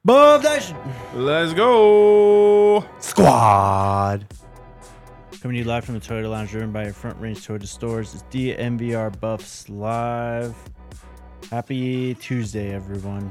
Above that Let's go. squad. Coming to you live from the Toyota Lounge, driven by your Front Range Toyota stores. It's DMVR Buffs live. Happy Tuesday, everyone.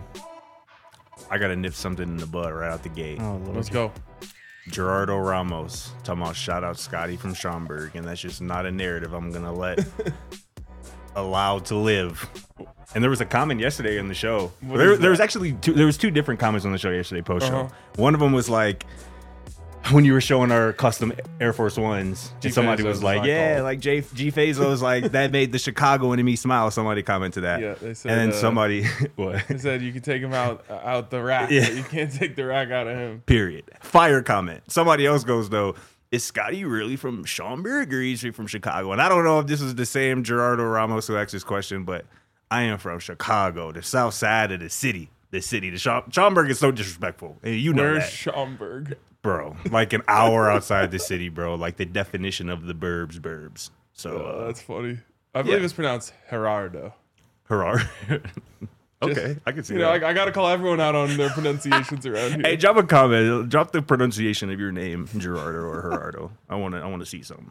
I gotta nip something in the bud right out the gate. Oh, Lord. Let's go. Gerardo Ramos talking about shout out Scotty from Schaumburg, and that's just not a narrative I'm gonna let allowed to live. And there was a comment yesterday on the show. There was actually two different comments on the show yesterday post show. One of them was like, when you were showing our custom Air Force Ones, and somebody was like, yeah, like G Fazo was like, that made the Chicago enemy smile. Somebody commented that. Yeah, they said, and then somebody, what? They said you can take him out the rack, Yeah. but you can't take the rack out of him. Period. Fire comment. Somebody else goes, though, is Scotty really from Schaumburg or is he from Chicago? And I don't know if this is the same Gerardo Ramos who asked this question, but I am from Chicago, the south side of the city. The Schaumburg is so disrespectful. And you know Where's that. Schaumburg? Bro, like an hour outside the city, bro. Like the definition of the burbs. So That's funny. I believe it's pronounced Gerardo. hurrah. Okay, Just, I can see you that. know, I got to call everyone out on their pronunciations around here. Hey, drop a comment. Drop the pronunciation of your name, Gerardo or Gerardo. I want to see something.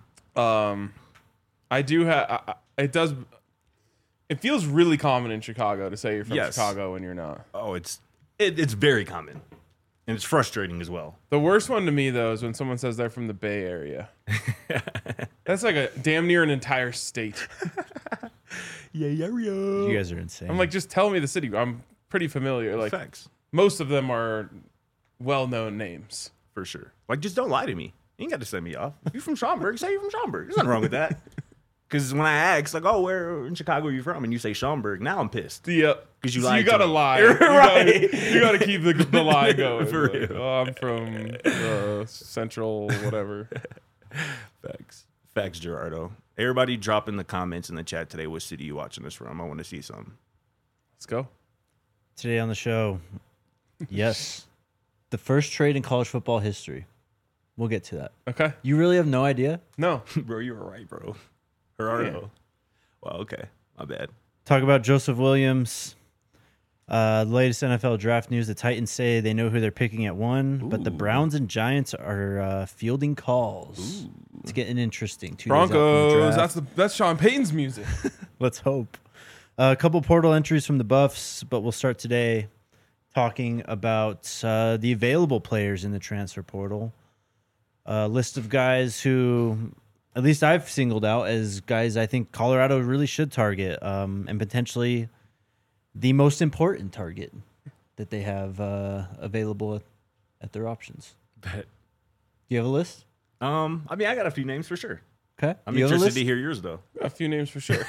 I do have. It does. It feels really common in Chicago to say you're from Yes. Chicago when you're not. Oh, it's very common, and it's frustrating as well. The worst one to me though is when someone says they're from the Bay Area. That's like a damn near an entire state. Yeah. You guys are insane. I'm like, just tell me the city. I'm pretty familiar. Like Facts most of them are well-known names. for sure. Like, just don't lie to me. You ain't got to send me off. If you're from Schaumburg, say you're from Schaumburg. There's nothing wrong with that. Because when I ask, like, oh, where in Chicago are you from? And you say Schaumburg, now I'm pissed. Yep. 'Cause you so lied you to gotta me. lie. Right. You gotta keep the lie going. For Like, real. oh, I'm from Central, whatever. Facts, Gerardo. Everybody drop in the comments in the chat today what city you watching this from. I want to see something. Let's go. Today on the show, yes, the first trade in college football history. We'll get to that. Okay. You really have no idea? No. Bro, you were right, bro. Gerardo. Yeah. Well, okay. My bad. Talk about Joseph Williams. The latest NFL draft news: the Titans say they know who they're picking at 1, but the Browns and Giants are fielding calls. It's getting interesting. 2 days out from the Broncos. draft. That's Sean Payton's music. Let's hope. A couple portal entries from the Buffs, but we'll start today talking about the available players in the transfer portal. A list of guys who, at least I've singled out as guys I think Colorado really should target, and potentially the most important target that they have available at their options. Bet. Do you have a list? I mean, I got a few names for sure. Okay. I'm You have a interested list? to hear yours, though. A few names for sure.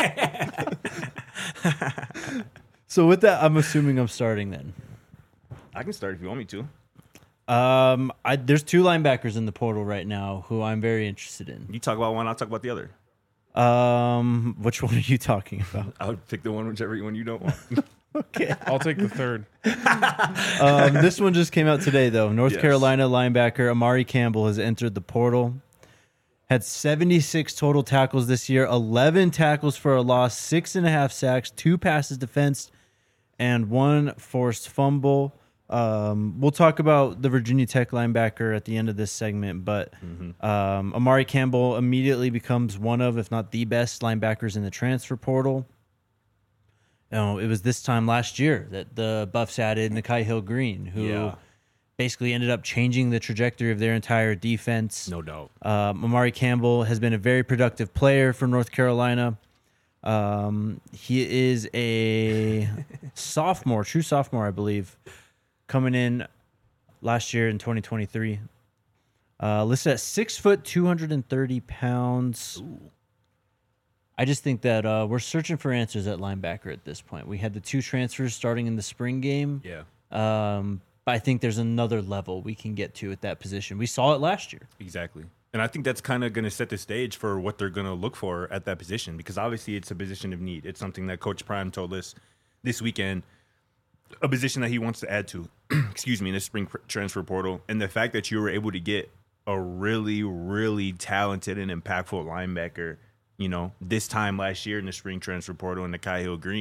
So with that, I'm assuming I'm starting then. I can start if you want me to. There's 2 linebackers in the portal right now who I'm very interested in. You talk about one, I'll talk about the other. Which one are you talking about? I would pick the one, whichever one you don't want. Okay. I'll take the third. This one just came out today, though. North Yes. Carolina linebacker Amari Campbell has entered the portal. Had 76 total tackles this year, 11 tackles for a loss, 6.5 sacks, 2 passes defensed, and 1 forced fumble. We'll talk about the Virginia Tech linebacker at the end of this segment, but Amari Campbell immediately becomes one of, if not the best linebackers in the transfer portal. You know, it was this time last year that the Buffs added Nakai Hill-Green, who basically ended up changing the trajectory of their entire defense. No doubt. Amari Campbell has been a very productive player for North Carolina. He is a sophomore, true sophomore, I believe, coming in last year in 2023. Listed at 6 foot, 230 pounds. Ooh. I just think that we're searching for answers at linebacker at this point. We had the 2 transfers starting in the spring game. Yeah. But I think there's another level we can get to at that position. We saw it last year. Exactly. And I think that's kind of going to set the stage for what they're going to look for at that position, because obviously it's a position of need. It's something that Coach Prime told us this weekend, a position that he wants to add to, in the spring transfer portal. And the fact that you were able to get a really, really talented and impactful linebacker, this time last year in the spring transfer portal in Nakai Hill-Green,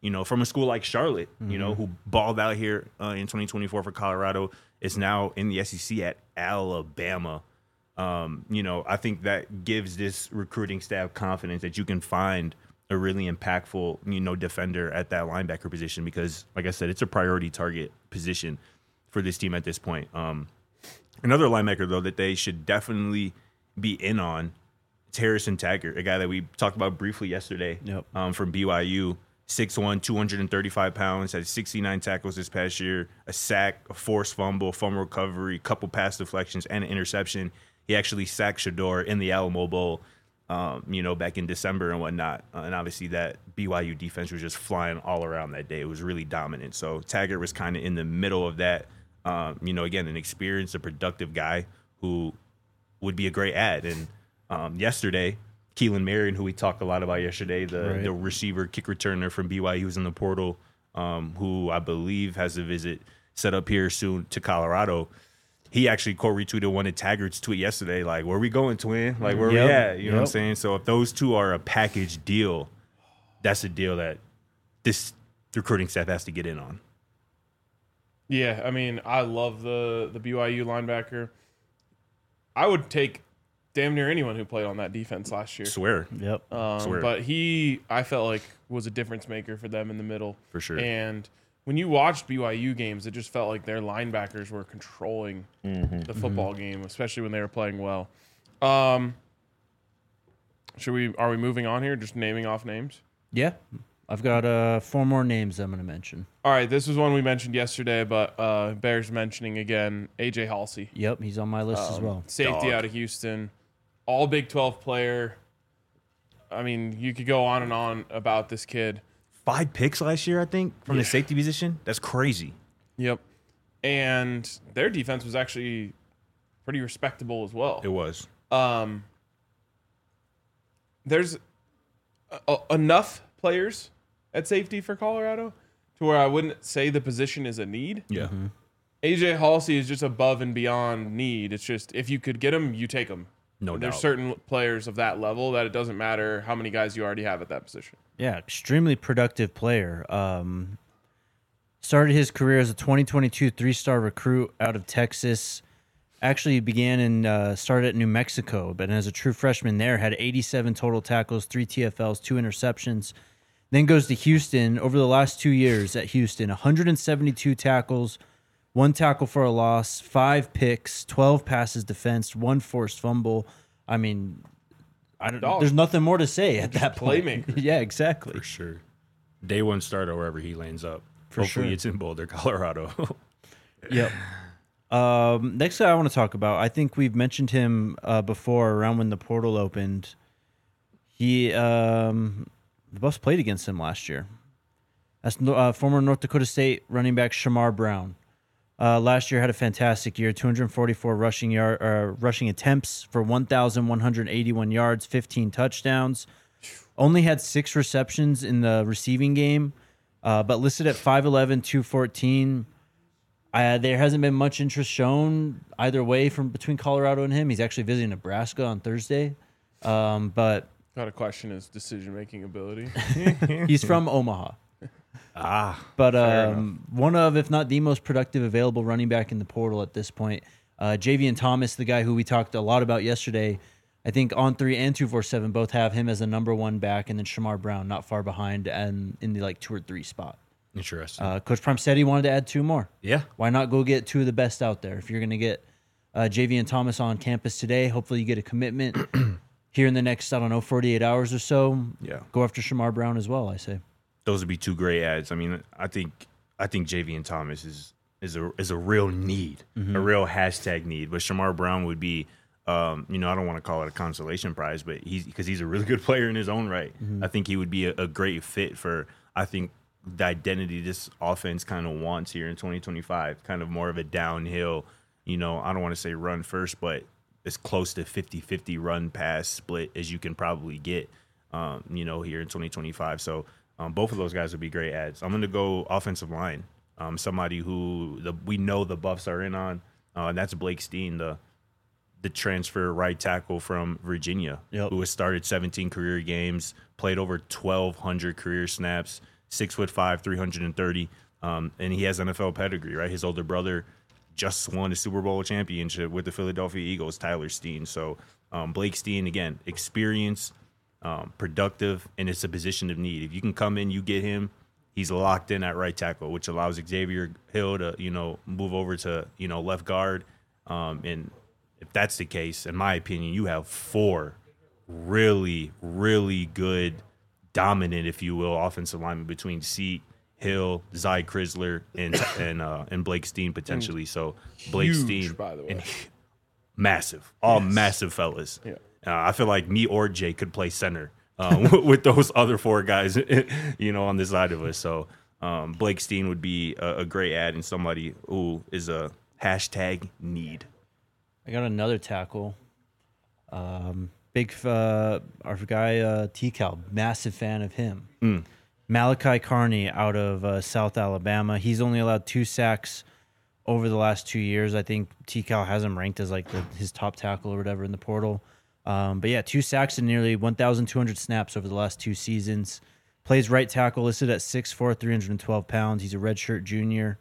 from a school like Charlotte, who balled out here in 2024 for Colorado, is now in the SEC at Alabama. I think that gives this recruiting staff confidence that you can find a really impactful, defender at that linebacker position because, like I said, it's a priority target position for this team at this point. Another linebacker, though, that they should definitely be in on, it's Harrison Taggart, a guy that we talked about briefly yesterday from BYU. 6'1", 235 pounds, had 69 tackles this past year, a sack, a forced fumble recovery, couple pass deflections, and an interception. He actually sacked Shador in the Alamo Bowl, back in December and whatnot. And obviously that BYU defense was just flying all around that day. It was really dominant. So Taggart was kind of in the middle of that. Again, an experienced, a productive guy who would be a great add. And yesterday, Keelan Marion, who we talked a lot about yesterday, the receiver, kick returner from BYU, who's in the portal, who I believe has a visit set up here soon to Colorado. He actually retweeted one of Taggart's tweet yesterday, like, where we going, twin? Like, where we at? You know what I'm saying? So if those two are a package deal, that's a deal that this recruiting staff has to get in on. Yeah, I mean, I love the BYU linebacker. I would take damn near anyone who played on that defense last year. Swear. Yep. Swear. But I felt like, was a difference maker for them in the middle. For sure. And when you watched BYU games, it just felt like their linebackers were controlling the football game, especially when they were playing well. Are we moving on here? Just naming off names? Yeah. I've got 4 more names I'm going to mention. All right, this was one we mentioned yesterday, but bears mentioning again. AJ Halsey. Yep, he's on my list as well. Safety out of Houston. All Big 12 player. I mean, you could go on and on about this kid. 5 picks last year, I think, from the safety position. That's crazy. Yep. And their defense was actually pretty respectable as well. It was. There's enough players at safety for Colorado to where I wouldn't say the position is a need. Yeah. AJ Halsey is just above and beyond need. It's just if you could get him, you take him. No doubt. There's certain players of that level that it doesn't matter how many guys you already have at that position. Yeah, extremely productive player. Started his career as a 2022 3-star recruit out of Texas. Actually began and started at New Mexico, but as a true freshman there, had 87 total tackles, 3 TFLs, 2 interceptions. Then goes to Houston. Over the last 2 years at Houston, 172 tackles, 1 tackle for a loss, 5 picks, 12 passes defensed, 1 forced fumble. I mean, there's nothing more to say at that point. Playmaker. Yeah, exactly. For sure. Day one starter wherever he lands up. For Hopefully sure. it's in Boulder, Colorado. Yep. Next guy I want to talk about, I think we've mentioned him before around when the portal opened. The Buffs played against him last year. That's former North Dakota State running back Shamar Brown. Last year had a fantastic year, 244 rushing attempts for 1,181 yards, 15 touchdowns. Only had 6 receptions in the receiving game, but listed at 5'11", 214. There hasn't been much interest shown either way from between Colorado and him. He's actually visiting Nebraska on Thursday. But Got to question his decision-making ability. he's from Omaha. But one of, if not the most productive available running back in the portal at this point. Javian Thomas, the guy who we talked a lot about yesterday, I think On3 and 247 both have him as a number 1 back, and then Shamar Brown not far behind and in the 2 or 3 spot. Interesting. Coach Prime said he wanted to add 2 more. Yeah. Why not go get 2 of the best out there? If you're going to get Javian Thomas on campus today, hopefully you get a commitment here in the next, 48 hours or so. Yeah. Go after Shamar Brown as well, I say. Those would be 2 great ads. I mean, I think Javian Thomas is a real need, a real hashtag need. But Shamar Brown would be, I don't want to call it a consolation prize, but because he's a really good player in his own right. I think he would be a great fit for, I think, the identity this offense kind of wants here in 2025, kind of more of a downhill, I don't want to say run first, but as close to 50-50 run pass split as you can probably get, here in 2025. So both of those guys would be great ads. I'm going to go offensive line, somebody who we know the Buffs are in on, and that's Blake Steen, the transfer right tackle from Virginia, who has started 17 career games, played over 1,200 career snaps, 6'5", 330, and he has NFL pedigree, right? His older brother just won a Super Bowl championship with the Philadelphia Eagles, Tyler Steen. So Blake Steen, again, experience, productive, and it's a position of need. If you can come in, you get him, he's locked in at right tackle, which allows Xavier Hill to, move over to, left guard. And if that's the case, in my opinion, you have 4 really, really good, dominant, if you will, offensive linemen between Seat, Hill, Zy Chrysler, and Blake Steen potentially. So Blake Huge, Steen, by the way. and massive, all massive fellas. Yeah. I feel like me or Jay could play center with those other 4 guys, on the side of us. So Blake Steen would be a great add and somebody who is a hashtag need. I got another tackle. Our guy T-Cal, massive fan of him. Malachi Carney out of South Alabama. He's only allowed 2 sacks over the last 2 years. I think T-Cal has him ranked as like his top tackle or whatever in the portal. But yeah, 2 sacks and nearly 1,200 snaps over the last 2 seasons. Plays right tackle, listed at 6'4", 312 pounds. He's a redshirt junior.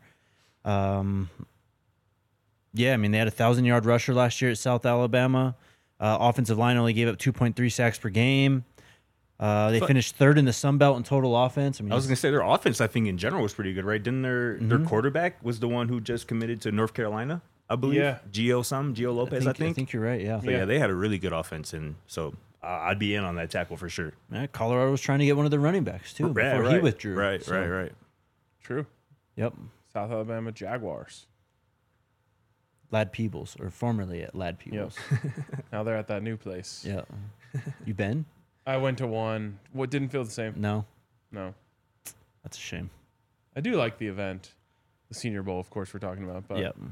Yeah, I mean, they had a 1,000-yard rusher last year at South Alabama. Offensive line only gave up 2.3 sacks per game. They finished 3rd in the Sun Belt in total offense. I was going to say their offense, I think, in general was pretty good, right? Didn't their quarterback was the one who just committed to North Carolina, I believe? Yeah. Gio Lopez, I think. I think you're right, yeah. So, yeah, they had a really good offense, and so I'd be in on that tackle for sure. Yeah, Colorado was trying to get one of their running backs, too, before he withdrew. Right. True. Yep. South Alabama Jaguars. Lad Peebles, or formerly at Lad Peebles. Yep. Now they're at that new place. Yeah. You been? I went to one. What didn't feel the same? No. No. That's a shame. I do like the event. The Senior Bowl, of course, we're talking about. But Yep.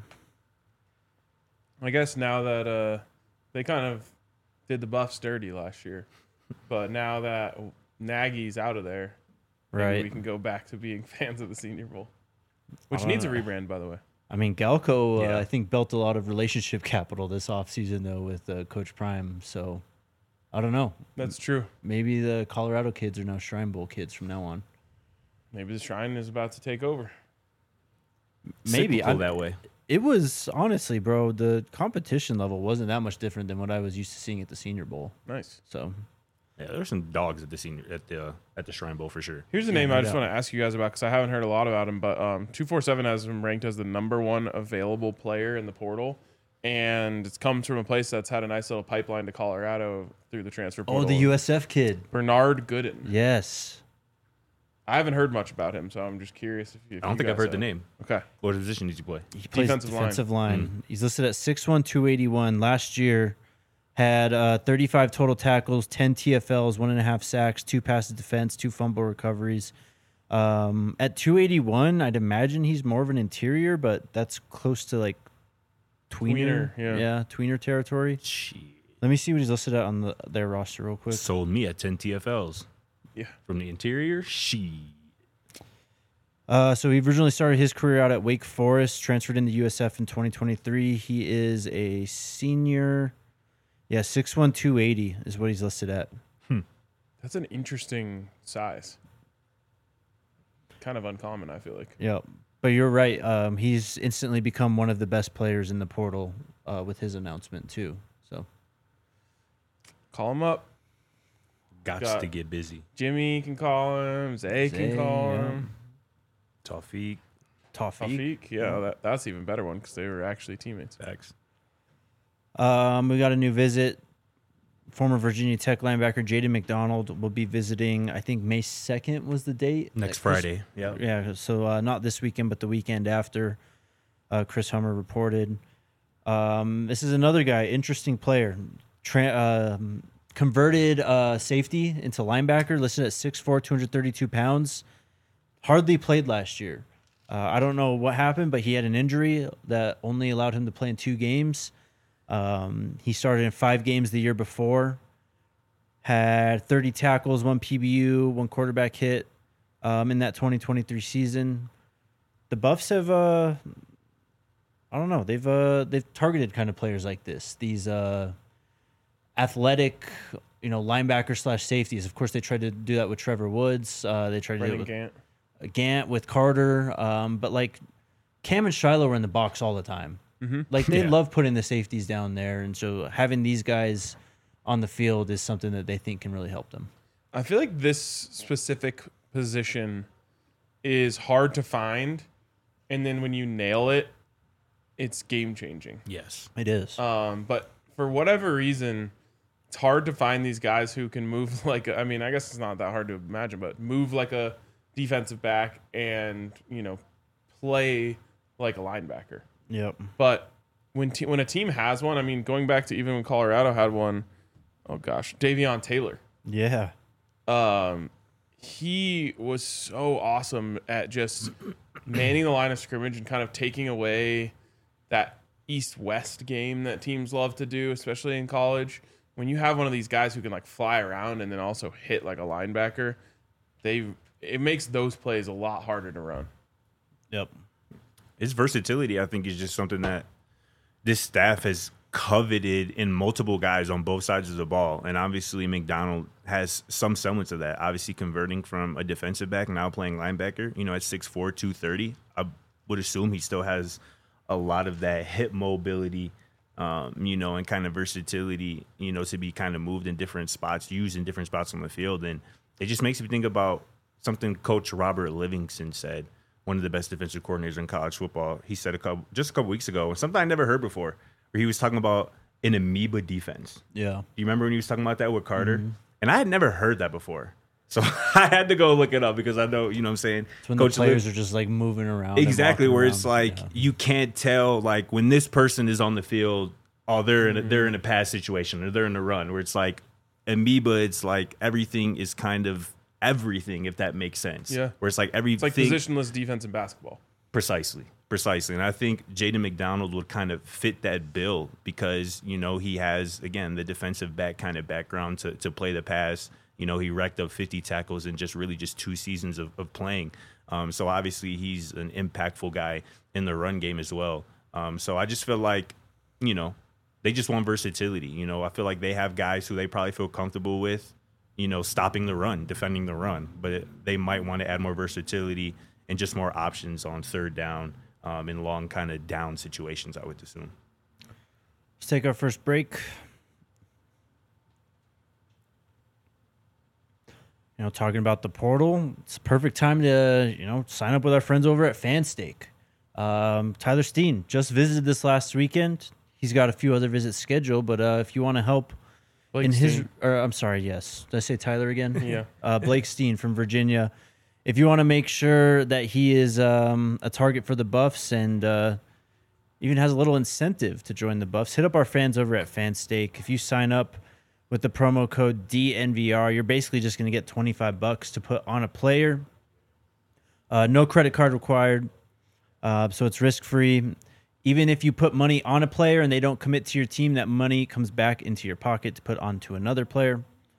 I guess now that they kind of did the Buffs dirty last year, but now that Nagy's out of there, maybe Right. we can go back to being fans of the Senior Bowl, which needs a rebrand, by the way. I mean, Galco, Yeah. I think, built a lot of relationship capital this offseason, though, with Coach Prime. So, I don't know. That's true. Maybe the Colorado kids are now Shrine Bowl kids from now on. Maybe the Shrine is about to take over. Maybe. Cyclical that way. It was, honestly, bro, the competition level wasn't that much different than what I was used to seeing at the Senior Bowl. Nice. So, Yeah, there's some dogs at the Shrine Bowl for sure. Here's a name I just want to ask you guys about because I haven't heard a lot about him, but 247 has him ranked as the #1 available player in the portal, and it comes from a place that's had a nice little pipeline to Colorado through the transfer portal. oh, the USF kid. Bernard Gooden. Yes. I haven't heard much about him, so I'm just curious if I don't think I've heard the name. Okay. What position did you play? He plays Defensive line. line. He's listed at 6'1", 281. Last year, had 35 total tackles, 10 TFLs, 1.5 sacks, 2 passes defense, 2 fumble recoveries. At 281, I'd imagine he's more of an interior, but that's close to like tweener. yeah. Tweener territory. Shit. Let me see what he's listed at on their roster real quick. Sold me at 10 TFLs. Yeah. From the interior, she. So he originally started his career out at Wake Forest, transferred into USF in 2023. He is a senior. Yeah, 6'1", 280 is what he's listed at. That's an interesting size. Kind of uncommon, I feel like. Yeah, but you're right. He's instantly become one of the best players in the portal with his announcement too. So Call him up. Got to get busy. Jimmy can call him. Zay can call him. Tawfiq. Taufik. Yeah, that's even better one because they were actually teammates. Facts. We got a new visit. Former Virginia Tech linebacker Jaden McDonald will be visiting. I think May 2nd was the date. Next Friday. Yeah. Yeah. So not this weekend, but the weekend after. Chris Hummer reported. This is another guy, interesting player. Converted safety into linebacker, listed at 6'4", 232 pounds. Hardly played last year. I don't know what happened, but he had an injury that only allowed him to play in 2 games. He started in 5 games the year before. Had 30 tackles, 1 PBU, 1 quarterback hit in that 2023 season. The Buffs have, I don't know, they've targeted kind of players like this. These athletic, linebacker / safeties. Of course, they tried to do that with Trevor Woods. They tried to do it with Gant with Carter, but like Cam and Shiloh were in the box all the time. Like they love putting the safeties down there, and so having these guys on the field is something that they think can really help them. I feel like this specific position is hard to find, and then when you nail it, it's game changing. Yes. It is. But for whatever reason, it's hard to find these guys who can move like I mean, I guess it's not that hard to imagine, but move like a defensive back and, play like a linebacker. Yep. But when a team has one, I mean, going back to even when Colorado had one, oh gosh, Davion Taylor. Yeah. He was so awesome at just manning the line of scrimmage and kind of taking away that east-west game that teams love to do, especially in college. When you have one of these guys who can like fly around and then also hit like a linebacker, it makes those plays a lot harder to run. Yep. His versatility, I think, is just something that this staff has coveted in multiple guys on both sides of the ball. And obviously McDonald has some semblance of that, obviously converting from a defensive back, now playing linebacker, at 6'4", 230. I would assume he still has a lot of that hip mobility, and kind of versatility, to be kind of moved in different spots, used in different spots on the field. And it just makes me think about something Coach Robert Livingston said, one of the best defensive coordinators in college football. He said just a couple weeks ago, something I never heard before, where he was talking about an amoeba defense. Yeah. Do you remember when he was talking about that with Carter? Mm-hmm. And I had never heard that before. So I had to go look it up because I know, what I'm saying? It's when Coach the players are just like moving around. Exactly, where around. It's like you can't tell, like when this person is on the field, they're in a pass situation or they're in a run, where it's like amoeba, it's like everything is kind of everything, if that makes sense. Yeah. Where it's like everything. It's like positionless defense in basketball. Precisely. And I think Jaden McDonald would kind of fit that bill because, he has, again, the defensive back kind of background to play the pass. He racked up 50 tackles in just 2 seasons of playing. So obviously he's an impactful guy in the run game as well. So I just feel like, they just want versatility. I feel like they have guys who they probably feel comfortable with, stopping the run, defending the run. But they might want to add more versatility and just more options on third down in long kind of down situations, I would assume. Let's take our first break. Talking about the portal, it's a perfect time to, sign up with our friends over at FanStake. Tyler Steen just visited this last weekend. He's got a few other visits scheduled, but if you want to help Blake Steen. I'm sorry, yes. Did I say Tyler again? Yeah. Blake Steen from Virginia. If you want to make sure that he is a target for the Buffs and even has a little incentive to join the Buffs, hit up our fans over at FanStake. If you sign up with the promo code DNVR, you're basically just going to get $25 to put on a player. No credit card required, so it's risk-free. Even if you put money on a player and they don't commit to your team, that money comes back into your pocket to put onto another player.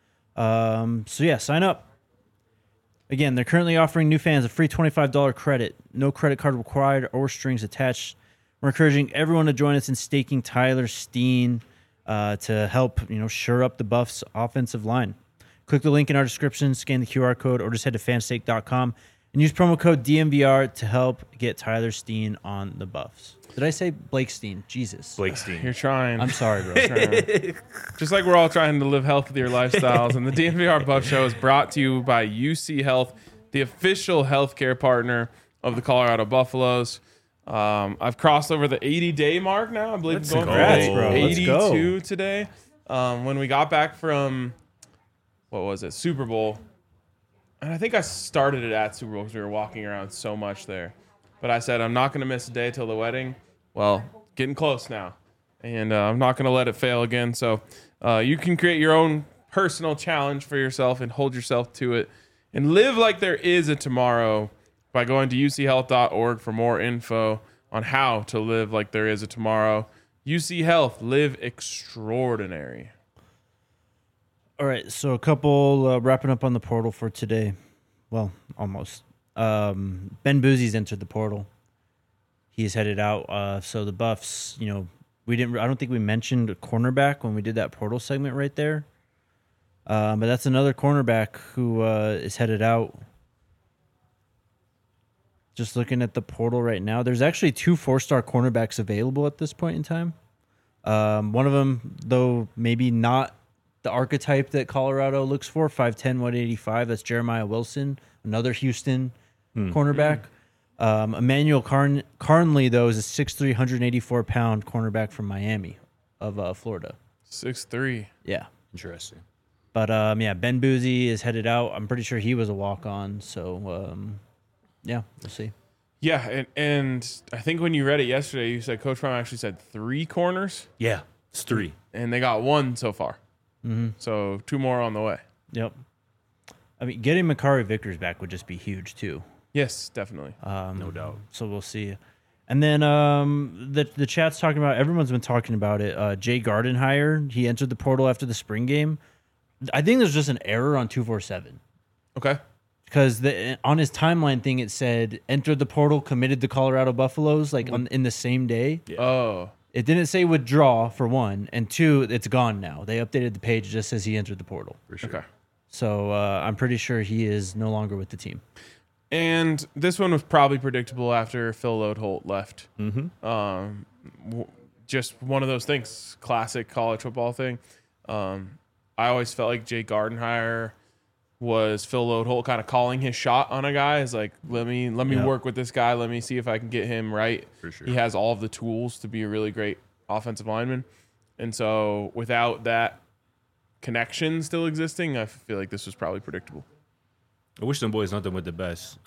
Sign up. Again, they're currently offering new fans a free $25 credit, no credit card required or strings attached. We're encouraging everyone to join us in staking Tyler Steen to help, shore up the Buffs' offensive line. Click the link in our description, scan the QR code, or just head to fanstake.com and use promo code DNVR to help get Tyler Steen on the Buffs. Did I say Blake Steen? Jesus. Blake Steen. You're trying. I'm sorry, bro. Just like we're all trying to live healthier lifestyles. And the DNVR Buff Show is brought to you by UC Health, the official healthcare partner of the Colorado Buffaloes. I've crossed over the 80-day mark now. I believe I'm going for 82 today. When we got back from, Super Bowl. And I think I started it at Super Bowl because we were walking around so much there. But I said, I'm not going to miss a day till the wedding. Well, getting close now. And I'm not going to let it fail again. So you can create your own personal challenge for yourself and hold yourself to it. And live like there is a tomorrow by going to uchealth.org for more info on how to live like there is a tomorrow. UC Health, live extraordinary. All right, so a couple wrapping up on the portal for today. Well, almost. Ben Boozie's entered the portal. He's headed out. So the Buffs, I don't think we mentioned a cornerback when we did that portal segment right there. But that's another cornerback who is headed out. Just looking at the portal right now, there's actually 2 4-star cornerbacks available at this point in time. One of them, though, maybe not the archetype that Colorado looks for, 5'10", 185. That's Jeremiah Wilson, another Houston cornerback. Emmanuel Carnley, though, is a 6'3", 184-pound cornerback from Miami of Florida. 6'3". Yeah. Interesting. But, Ben Boozy is headed out. I'm pretty sure he was a walk-on. So, yeah, we'll see. Yeah, and I think when you read it yesterday, you said Coach Prime actually said 3 corners. Yeah, it's 3. And they got 1 so far. Mm-hmm. So 2 more on the way. Yep. I mean, getting Makari Vickers back would just be huge, too. Yes, definitely. No doubt. So we'll see. And then the chat's talking about, everyone's been talking about it. Jay Gardenhire, he entered the portal after the spring game. I think there's just an error on 247. Okay. Because on his timeline thing, it said entered the portal, committed to Colorado Buffaloes, like in the same day. Yeah. Oh. It didn't say withdraw, for one. And 2, it's gone now. They updated the page. It just says he entered the portal. For sure. Okay. So I'm pretty sure he is no longer with the team. And this one was probably predictable after Phil Lodeholt left. Mm-hmm. Just one of those things, classic college football thing. I always felt like Jay Gardenhire was Phil Lodeholt kind of calling his shot on a guy. Is like, let me work with this guy. Let me see if I can get him right. For sure. He has all of the tools to be a really great offensive lineman. And so without that connection still existing, I feel like this was probably predictable. I wish them boys nothing but the best.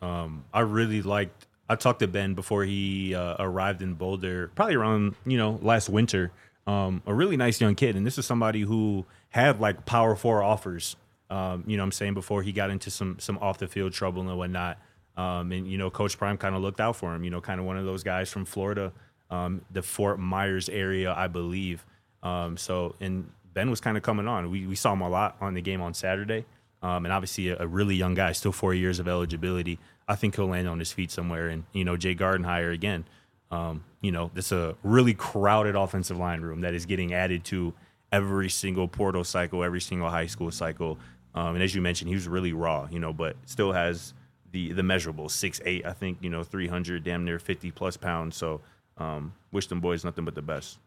I talked to Ben before he arrived in Boulder, probably around, last winter. A really nice young kid. And this is somebody who had like Power 4 offers, I'm saying, before he got into some off the field trouble and whatnot. And Coach Prime kind of looked out for him, kind of one of those guys from Florida, the Fort Myers area, I believe. And Ben was kind of coming on. We saw him a lot on the game on Saturday. And obviously a really young guy, still 4 years of eligibility. I think he'll land on his feet somewhere. And, Jay Gardenhire, again, this a really crowded offensive line room that is getting added to every single portal cycle, every single high school cycle. And as you mentioned, he was really raw, but still has the measurable 6'8", I think, 300, damn near 50-plus pounds. So wish them boys nothing but the best.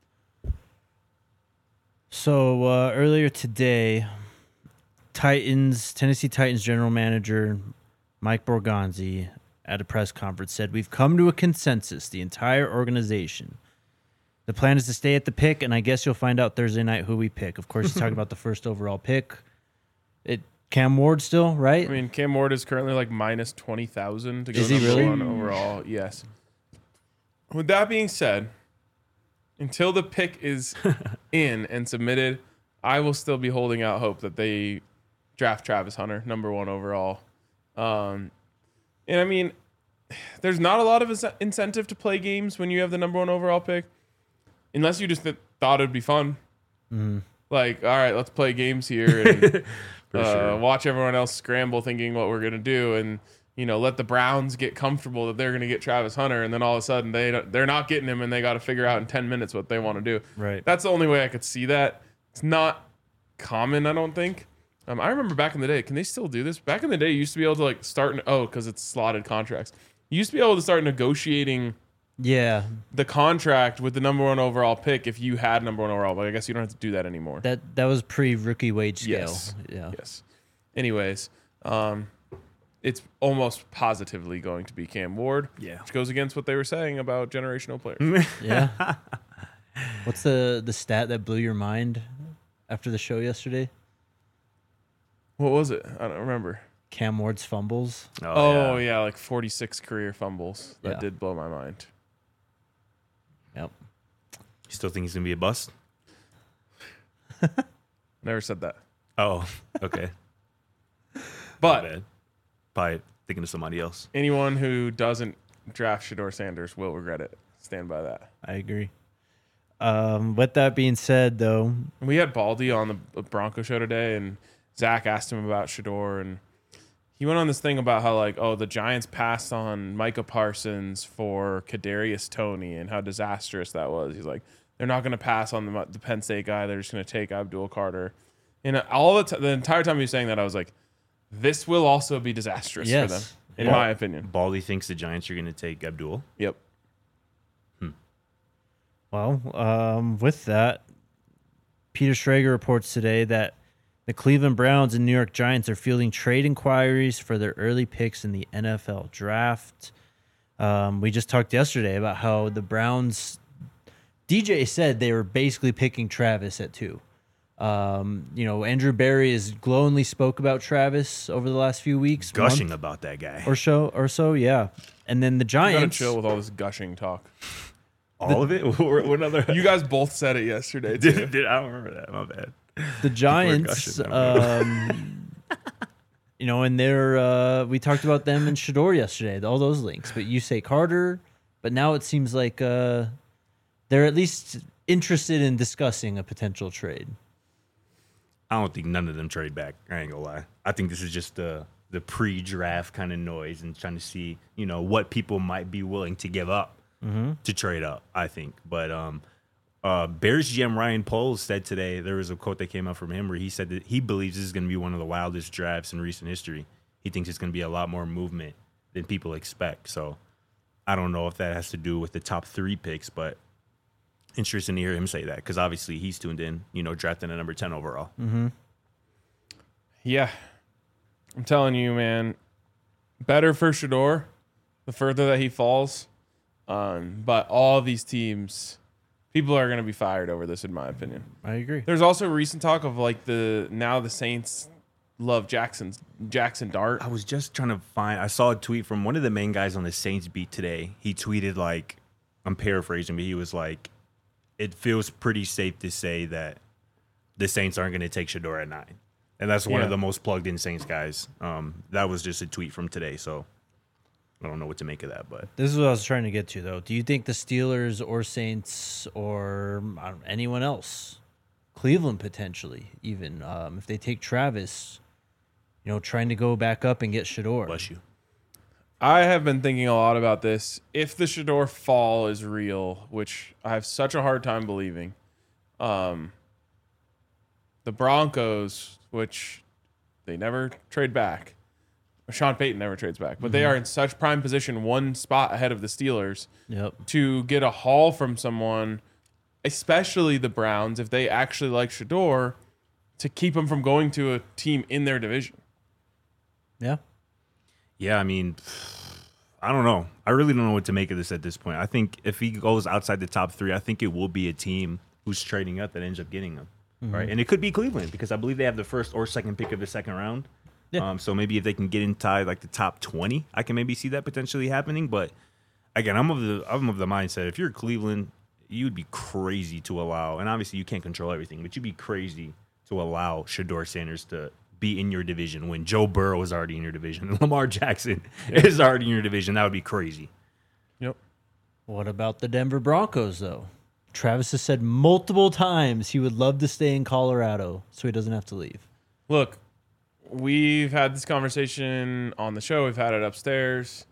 So earlier today, Tennessee Titans general manager Mike Borgonzi at a press conference said, "We've come to a consensus, the entire organization. The plan is to stay at the pick, and I guess you'll find out Thursday night who we pick." Of course, he's talking about the first overall pick. Cam Ward still, right? I mean, Cam Ward is currently like minus 20,000 to go Is he number really? 1 overall. Yes. With that being said, until the pick is in and submitted, I will still be holding out hope that they draft Travis Hunter, number 1 overall. And I mean, there's not a lot of incentive to play games when you have the number 1 overall pick, unless you just thought it'd be fun. Mm-hmm. Like, all right, let's play games here and sure. watch everyone else scramble thinking what we're going to do. And, let the Browns get comfortable that they're going to get Travis Hunter. And then all of a sudden they're not getting him and they got to figure out in 10 minutes what they want to do. Right. That's the only way I could see that. It's not common, I don't think. I remember back in the day, can they still do this? Back in the day, you used to be able to like start, because it's slotted contracts. You used to be able to start negotiating the contract with the number 1 overall pick if you had number 1 overall. But I guess you don't have to do that anymore. That was pre-rookie wage scale. Yes. Yeah. Yes. Anyways, it's almost positively going to be Cam Ward, which goes against what they were saying about generational players. Yeah. What's the stat that blew your mind after the show yesterday? What was it? I don't remember. Cam Ward's fumbles. Oh yeah, like 46 career fumbles. That Yeah. did blow my mind. Yep. You still think he's going to be a bust? Never said that. Oh, okay. But Bad. Probably thinking of somebody else. anyone who doesn't draft Shedeur Sanders will regret it. Stand by that. I agree. With that being said, though, We had Baldy on the Bronco show today, and Zach asked him about Shedeur, and he went on this thing about how, like, the Giants passed on Micah Parsons for Kadarius Toney and how disastrous that was. He's like, they're not going to pass on the Penn State guy. They're just going to take Abdul Carter. And all the entire time he was saying that, I was like, this will also be disastrous for them. in my opinion. Baldy thinks the Giants are going to take Abdul. Yep. Well, with that, Peter Schrager reports today that the Cleveland Browns and New York Giants are fielding trade inquiries for their early picks in the NFL draft. We just talked yesterday about how the Browns, DJ said they were basically picking Travis at 2. Andrew Berry has glowingly spoke about Travis over the last few weeks. Gushing month about that guy. or so, yeah. And then the You gotta Giants. chill with all this gushing talk. All of it? What other? You guys both said it yesterday too. I don't remember that. My bad. The Giants, gushing, and they're we talked about them and Shador yesterday, all those links. But you say Carter, but now it seems like they're at least interested in discussing a potential trade. I don't think none of them trade back. I ain't gonna lie. I think this is just the pre-draft kind of noise and trying to see, what people might be willing to give up to trade up, I think. But Bears GM Ryan Poles said today, there was a quote that came out from him where he said that he believes this is going to be one of the wildest drafts in recent history. He thinks it's going to be a lot more movement than people expect. So I don't know if that has to do with the top 3 picks, but interesting to hear him say that because obviously he's tuned in, drafting at number 10 overall. Yeah. I'm telling you, man, better for Shador the further that he falls. But all these teams, people are going to be fired over this, in my opinion. I agree. There's also recent talk of the Saints love Jackson Dart. I was just trying to I saw a tweet from one of the main guys on the Saints beat today. He tweeted I'm paraphrasing, but he was like, it feels pretty safe to say that the Saints aren't going to take Shador at 9. And that's one of the most plugged in Saints guys. That was just a tweet from today. So I don't know what to make of that, but This is what I was trying to get to, though. Do you think the Steelers or Saints or anyone else, Cleveland potentially, even if they take Travis, trying to go back up and get Shador? bless you. I have been thinking a lot about this. If the Shador fall is real, which I have such a hard time believing, the Broncos, which they never trade back, Sean Payton never trades back, but they are in such prime position, one spot ahead of the Steelers, to get a haul from someone, especially the Browns, if they actually like Shador, to keep him from going to a team in their division. Yeah. Yeah, I mean, I don't know. I really don't know what to make of this at this point. I think if he goes outside the top 3, I think it will be a team who's trading up that ends up getting him. Right. And it could be Cleveland because I believe they have the first or second pick of the second round. Yeah. So maybe if they can get inside the top 20, I can maybe see that potentially happening. But again, I'm of the mindset if you're Cleveland, you'd be crazy to allow, and obviously you can't control everything, but you'd be crazy to allow Shador Sanders to be in your division when Joe Burrow is already in your division and Lamar Jackson is already in your division. That would be crazy. Yep. What about the Denver Broncos, though? Travis has said multiple times he would love to stay in Colorado so he doesn't have to leave. Look, we've had this conversation on the show. We've had it upstairs.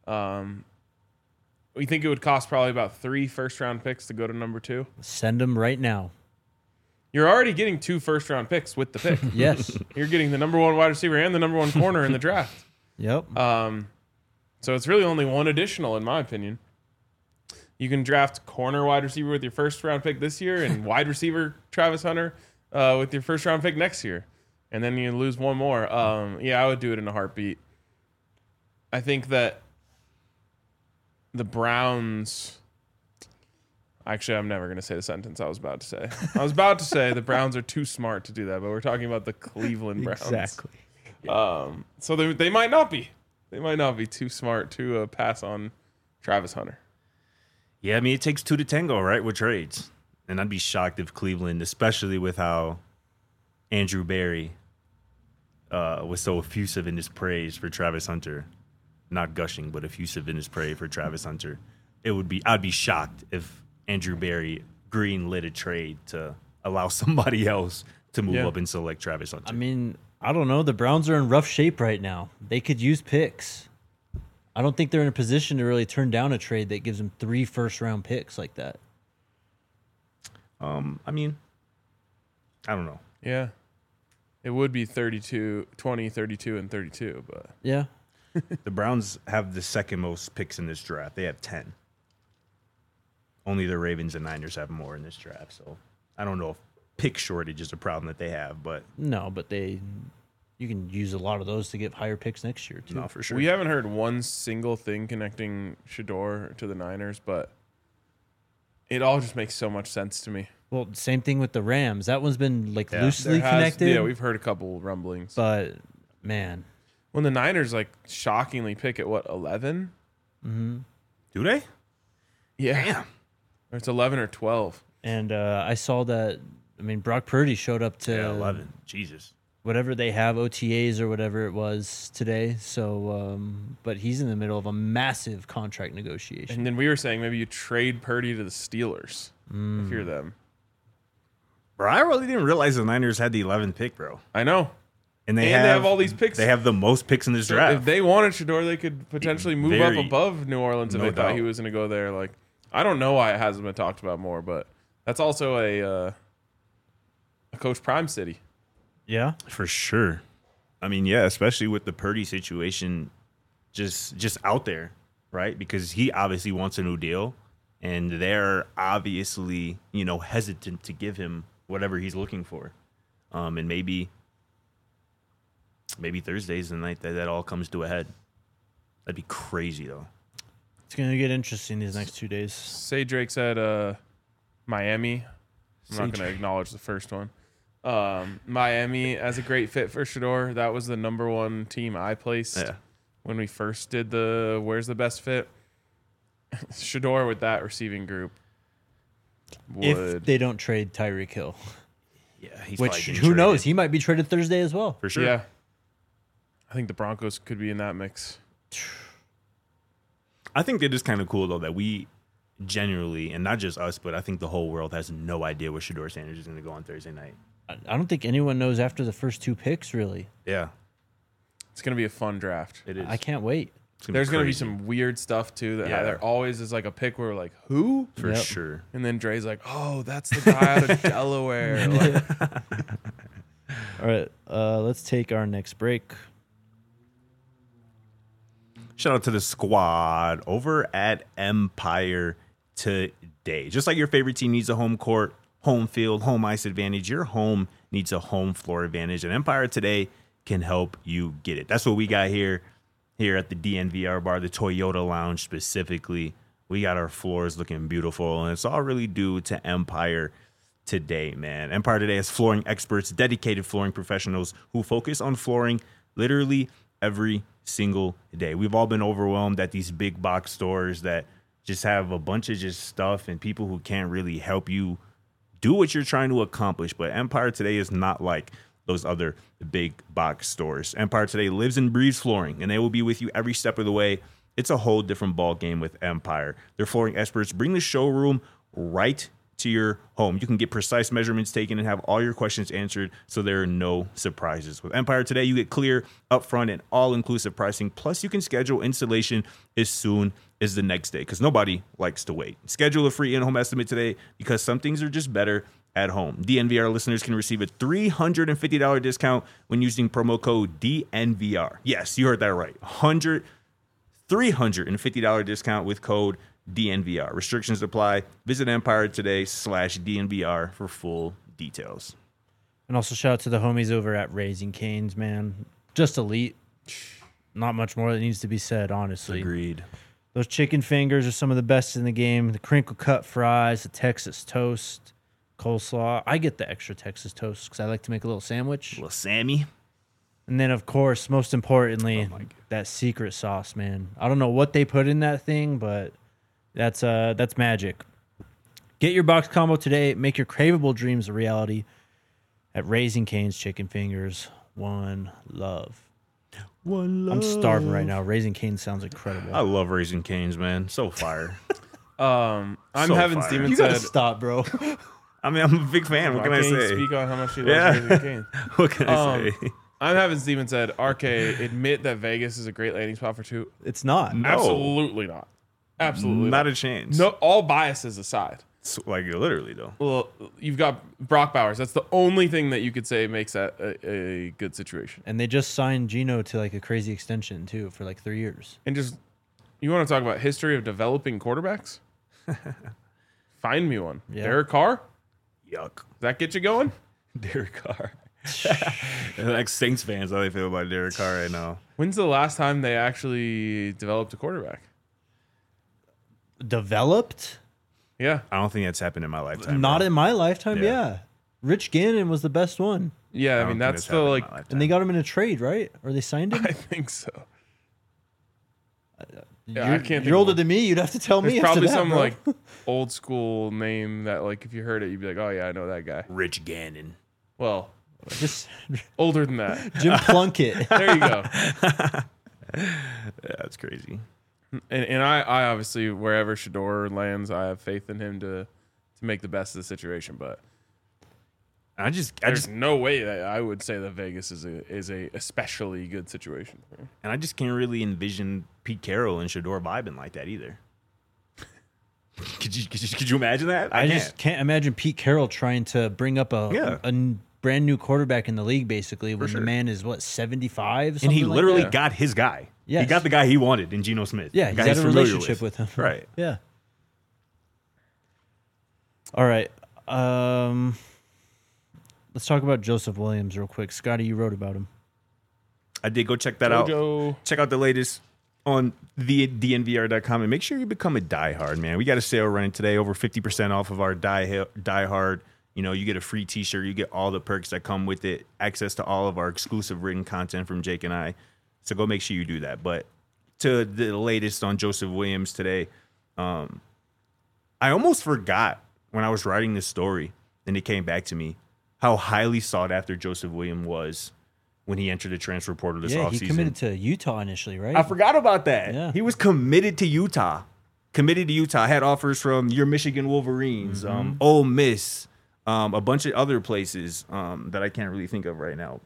We think it would cost probably about 3 first-round picks to go to number 2. Send him right now. You're already getting 2 first-round picks with the pick. Yes. You're getting the number 1 wide receiver and the number 1 corner in the draft. Yep. So it's really only 1 additional, in my opinion. You can draft corner wide receiver with your first-round pick this year and wide receiver Travis Hunter with your first-round pick next year. And then you lose 1 more. I would do it in a heartbeat. I think that the Browns... Actually, I'm never going to say the sentence I was about to say. I was about to say the Browns are too smart to do that, but we're talking about the Cleveland Browns. Exactly. So they might not be. They might not be too smart to pass on Travis Hunter. Yeah, I mean, it takes 2 to tango, right, with trades. And I'd be shocked if Cleveland, especially with how Andrew Berry was so effusive in his praise for Travis Hunter, not gushing, but effusive in his praise for Travis Hunter. I'd be shocked if Andrew Berry green-lit a trade to allow somebody else to move up and select Travis Hunter. I mean, I don't know. The Browns are in rough shape right now. They could use picks. I don't think they're in a position to really turn down a trade that gives them 3 first-round picks like that. I mean, I don't know. Yeah. It would be 20, 32, and 32, but... Yeah. The Browns have the second most picks in this draft. They have 10. Only the Ravens and Niners have more in this draft. So I don't know if pick shortage is a problem that they have, but No, but you can use a lot of those to get higher picks next year too. no, for sure. We haven't heard one single thing connecting Shador to the Niners, but it all just makes so much sense to me. Well, same thing with the Rams. That one's been like Yeah. loosely There has- connected. Yeah, we've heard a couple rumblings. but man, When the Niners like shockingly pick at what 11? Do they? Yeah, Damn. or it's 11 or 12. and I saw that. I mean, Brock Purdy showed up to Yeah, 11. Jesus. whatever they have, OTAs or whatever it was today. So, but he's in the middle of a massive contract negotiation. And then we were saying maybe you trade Purdy to the Steelers if you're them. Bro, I really didn't realize the Niners had the 11th pick, bro. I know. And They have all these picks. They have the most picks in this So draft. if they wanted Shador, they could potentially move Very. up above New Orleans if No they thought doubt. he was going to go there. Like, I don't know why it hasn't been talked about more, but that's also a Coach Prime city. Yeah, For sure. I mean, yeah, especially with the Purdy situation just out there, right? Because he obviously wants a new deal, and they're obviously, hesitant to give him whatever he's looking for. And maybe Thursday's the night that all comes to a head. That'd be crazy, though. it's gonna get interesting these next 2 days. Say Drake said Miami. I'm not going to acknowledge the first one. Miami as a great fit for Shador. That was the number one team I placed when we first did the where's the best fit. Shador with that receiving group If would they don't trade Tyreek Hill, Yeah, he's which probably getting who knows, traded. he might be traded Thursday as well. For sure. Yeah. I think the Broncos could be in that mix. I think it is kind of cool, though, that we generally, and not just us, but I think the whole world has no idea where Shador Sanders is going to go on Thursday night. I don't think anyone knows after the first 2 picks, really. Yeah, It's going to be a fun draft. it is. I can't wait. It's There's going to be crazy. some weird stuff, too, that Yeah. there always is like a pick where we're like, who? For Yep. sure. And then Dre's like, oh, that's the guy out of Delaware. Like, All right, let's take our next break. Shout out to the squad over at Empire today. Just like your favorite team needs a home court, home field, home ice advantage, your home needs a home floor advantage, and Empire today can help you get it. That's what we got here at the DNVR bar, the Toyota Lounge specifically. We got our floors looking beautiful, and it's all really due to Empire today, man. Empire today has flooring experts, dedicated flooring professionals who focus on flooring literally every single day. We've all been overwhelmed at these big box stores that just have a bunch of just stuff and people who can't really help you do what you're trying to accomplish. But Empire today is not like those other big box stores. Empire today lives and breathes flooring, and they will be with you every step of the way. It's a whole different ball game with Empire. Their flooring experts bring the showroom right to your home. You can get precise measurements taken and have all your questions answered, so there are no surprises. With Empire today, you get clear, upfront, and all-inclusive pricing. Plus, you can schedule installation as soon as the next day, because nobody likes to wait. Schedule a free in-home estimate today, because some things are just better at home. DNVR listeners can receive a $350 discount when using promo code DNVR. Yes, you heard that right. $350 discount with code DNVR. Restrictions apply. Visit Empire today/DNVR for full details. And also shout out to the homies over at Raising Cane's, man. Just elite. Not much more that needs to be said, honestly. Agreed. Those chicken fingers are some of the best in the game. The crinkle cut fries, the Texas toast, coleslaw. I get the extra Texas toast because I like to make a little sandwich. Little Sammy. And then, of course, most importantly, that secret sauce, man. I don't know what they put in that thing, but that's magic. Get your box combo today. Make your craveable dreams a reality at Raising Cane's Chicken Fingers. One love. One love. I'm starving right now. Raising Cane's sounds incredible. I love Raising Cane's, man. So fire. I'm So having fire. Steven You gotta said. stop, bro. I mean, I'm a big fan. What can I can't say? Speak on how much he loves Yeah. Raising Cane's. What can I say? I'm having Steven said, RK, admit that Vegas is a great landing spot for two. It's not. No. Absolutely not. Absolutely Not a chance. No, all biases aside. So, like literally though. Well, you've got Brock Bowers. That's the only thing that you could say makes that a good situation. And they just signed Geno to like a crazy extension too for like 3 years. And just, you want to talk about history of developing quarterbacks? Find me one. Yeah. Derek Carr? Yuck. Does that get you going? Derek Carr. Like Saints fans, how they feel about Derek Carr right now. When's the last time they actually developed a quarterback? Developed? Yeah. I don't think that's happened in my lifetime. Not bro. in my lifetime, Yeah. yeah. Rich Gannon was the best one. Yeah, I don't mean, think that's the, happened in like, my lifetime. And they got him in a trade, right? Or they signed him? I think so. Yeah, you're I can't think you're of older one. than me. You'd have to tell me. There's after probably that, some, bro. like, old school name that, like, if you heard it, you'd be like, oh, yeah, I know that guy. Rich Gannon. Well, just older than that. Jim Plunkett. There you go. Yeah, that's crazy. And I obviously, wherever Shador lands, I have faith in him to make the best of the situation. But I just there's no way that I would say that Vegas is a especially good situation for him. and I just can't really envision Pete Carroll and Shador vibing like that either. Could you imagine that? I just can't imagine Pete Carroll trying to bring up a brand new quarterback in the league, basically, when sure. the man is, what, 75? And he something like literally that? got his guy. He Yes. got the guy he wanted in Geno Smith. Yeah, the he's guy had a familiar relationship with him. Right. Yeah. All right. Let's talk about Joseph Williams real quick. Scotty, you wrote about him. I did go check that out. Jojo. Check out the latest on the DNVR.com and make sure you become a diehard, man. We got a sale running today, over 50% off of our diehard. You know, you get a free t-shirt, you get all the perks that come with it, access to all of our exclusive written content from Jake and I. So go make sure you do that. But to the latest on Joseph Williams today, I almost forgot when I was writing this story and it came back to me how highly sought after Joseph Williams was when he entered the transfer portal this Yeah, offseason. he committed to Utah initially, right? I forgot about that. Yeah. He was committed to Utah. Had offers from your Michigan Wolverines, Ole Miss, a bunch of other places that I can't really think of right now.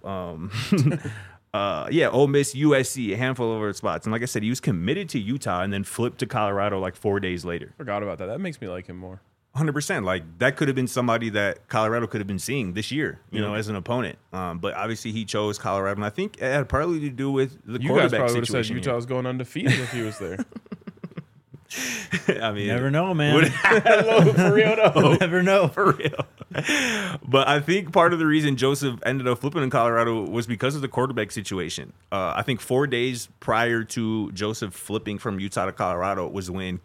Ole Miss, USC, a handful of other spots. And like I said, he was committed to Utah and then flipped to Colorado like 4 days later. Forgot about that. That makes me like him more. 100%. Like that could have been somebody that Colorado could have been seeing this year, you know, as an opponent. But obviously he chose Colorado, and I think it had partly to do with the You guys quarterback probably would have said situation. Utah was going undefeated if he was there. I mean, Never know, man. for real, no. Never know. For real. But I think part of the reason Joseph ended up flipping in Colorado was because of the quarterback situation. I think 4 days prior to Joseph flipping from Utah to Colorado was when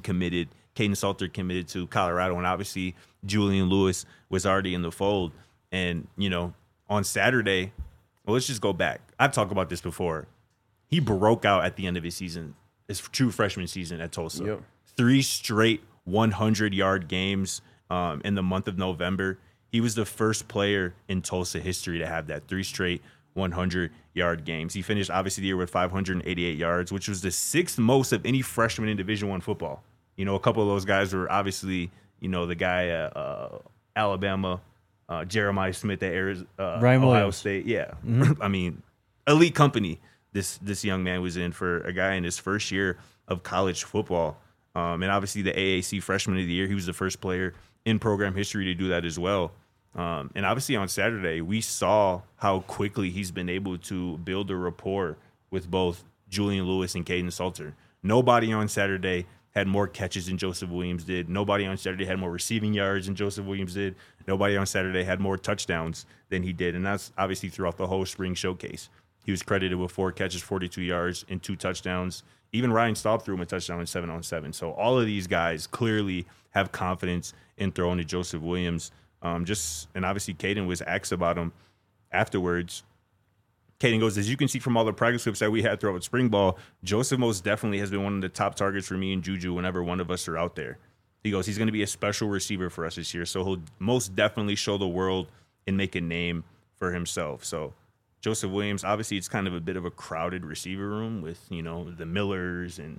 Caden Salter committed to Colorado, and obviously Julian Lewis was already in the fold. And, you know, on Saturday, well, let's just go back. I've talked about this before. He broke out at the end of his season, his true freshman season at Tulsa. Yep. 3 straight 100-yard games in the month of November. He was the first player in Tulsa history to have that 3 straight 100-yard games. He finished, obviously, the year with 588 yards, which was the 6th most of any freshman in Division I football. You know, a couple of those guys were obviously, you know, the guy at Alabama, Jeremiah Smith at Ryan Ohio Williams. State. Yeah. I mean, elite company this young man was in for a guy in his first year of college football. And obviously the AAC Freshman of the Year, he was the first player in program history to do that as well. And obviously on Saturday, we saw how quickly he's been able to build a rapport with both Julian Lewis and Caden Salter. Nobody on Saturday had more catches than Joseph Williams did. Nobody on Saturday had more receiving yards than Joseph Williams did. Nobody on Saturday had more touchdowns than he did. And that's obviously throughout the whole spring showcase. He was credited with 4 catches, 42 yards, and 2 touchdowns. Even Ryan Staub threw him a touchdown in 7-on-7. So all of these guys clearly have confidence in throwing to Joseph Williams. And obviously Caden was asked about him afterwards. Caden goes, as you can see from all the practice clips that we had throughout spring ball, Joseph most definitely has been one of the top targets for me and Juju whenever one of us are out there. He goes, he's going to be a special receiver for us this year, so he'll most definitely show the world and make a name for himself. So Joseph Williams, obviously it's kind of a bit of a crowded receiver room with, you know, the Millers and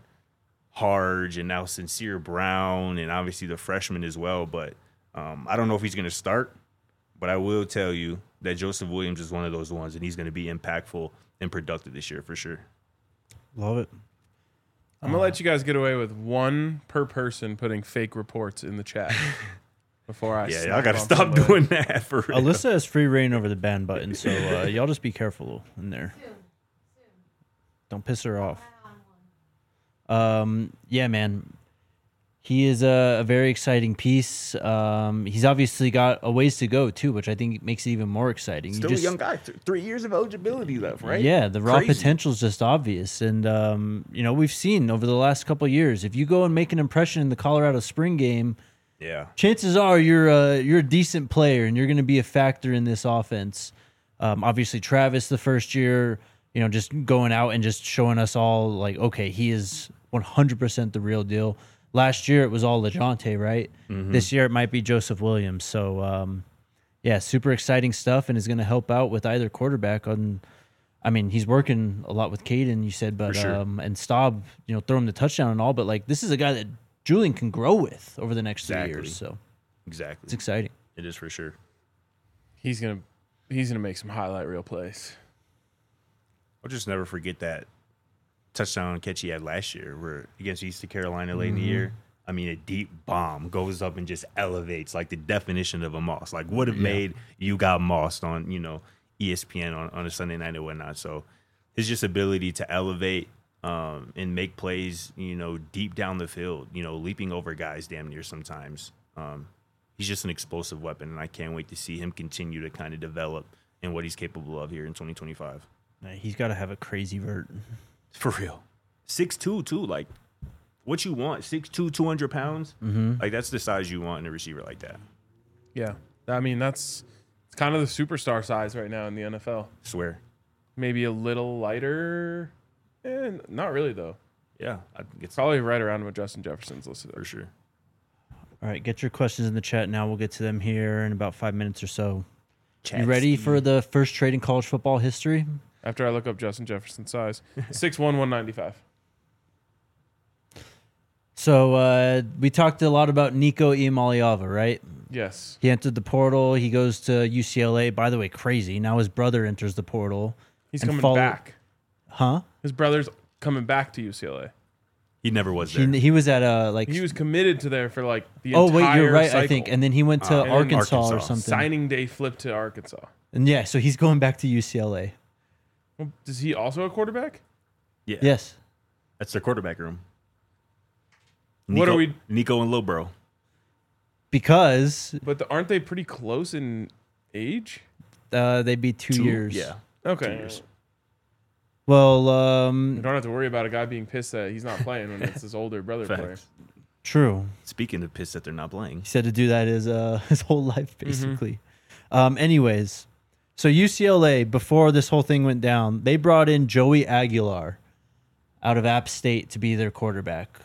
Harge and now Sincere Brown and obviously the freshmen as well. But I don't know if he's going to start, but I will tell you that Joseph Williams is one of those ones, and he's going to be impactful and productive this year for sure. Love it. I'm gonna let you guys get away with one per person putting fake reports in the chat before I. Yeah, snap y'all gotta on stop somebody. doing that for real. Alyssa has free reign over the ban button, so y'all just be careful in there. Don't piss her off. Yeah, man. He is a very exciting piece. He's obviously got a ways to go too, which I think makes it even more exciting. Still a young guy. 3 years of eligibility left, right? Yeah, the raw Crazy. potential is just obvious, and we've seen over the last couple of years. If you go and make an impression in the Colorado spring game, Yeah. chances are you're a decent player and you're going to be a factor in this offense. Obviously, Travis the first year, just going out and just showing us all like, okay, he is 100% the real deal. Last year it was all LeJontay, right? This year it might be Joseph Williams. So, yeah, super exciting stuff, and is going to help out with either quarterback. He's working a lot with Caden, you said, but sure. and Staub, throw him the touchdown and all, but like this is a guy that Julian can grow with over the next 3 Exactly. years. So Exactly. it's exciting. It is for sure. He's gonna make some highlight reel plays. I'll just never forget that touchdown catch he had last year where against East Carolina late in the year. I mean, a deep bomb goes up and just elevates like the definition of a Moss. Like would have made you got mossed on, ESPN on a Sunday night and whatnot. So his just ability to elevate and make plays, deep down the field, leaping over guys damn near sometimes. He's just an explosive weapon, and I can't wait to see him continue to kind of develop in what he's capable of here in 2025. He's got to have a crazy vert. For real. 6'2", too. Like, what you want, 6'2", 200 pounds? Like, that's the size you want in a receiver like that. Yeah, I mean it's kind of the superstar size right now in the NFL. Swear. Maybe a little lighter, not really though. Yeah, I think it's Probably right around what Justin Jefferson's listed for at. sure. All right, get your questions in the chat now. We'll get to them here in about 5 minutes or so. Chat You ready Steve. for the first trade in college football history? After I look up Justin Jefferson's size, 6'1", 195. So we talked a lot about Nico Iamaleava, right? Yes, He entered the portal. He goes to UCLA. By the way, crazy. Now his brother enters the portal. he's And coming follow- back. Huh? His brother's coming back to UCLA. He never was there. He was at He was committed to there for like the oh, entire wait, you're right, cycle. I think. And then he went to And then Arkansas or Arkansas. something. Signing day flipped to Arkansas. And yeah, so he's going back to UCLA. Well, is he also a quarterback? Yeah. Yes. That's their quarterback room. What are we- Nico and Lil Bro. Because But aren't they pretty close in age? they'd be 2 years. Yeah. Okay. 2 years. Well, You don't have to worry about a guy being pissed that he's not playing when it's his older brother player. Facts. true. Speaking of piss that they're not playing. He said to do that his whole life, basically. Anyways, so UCLA, before this whole thing went down, they brought in Joey Aguilar out of App State to be their quarterback.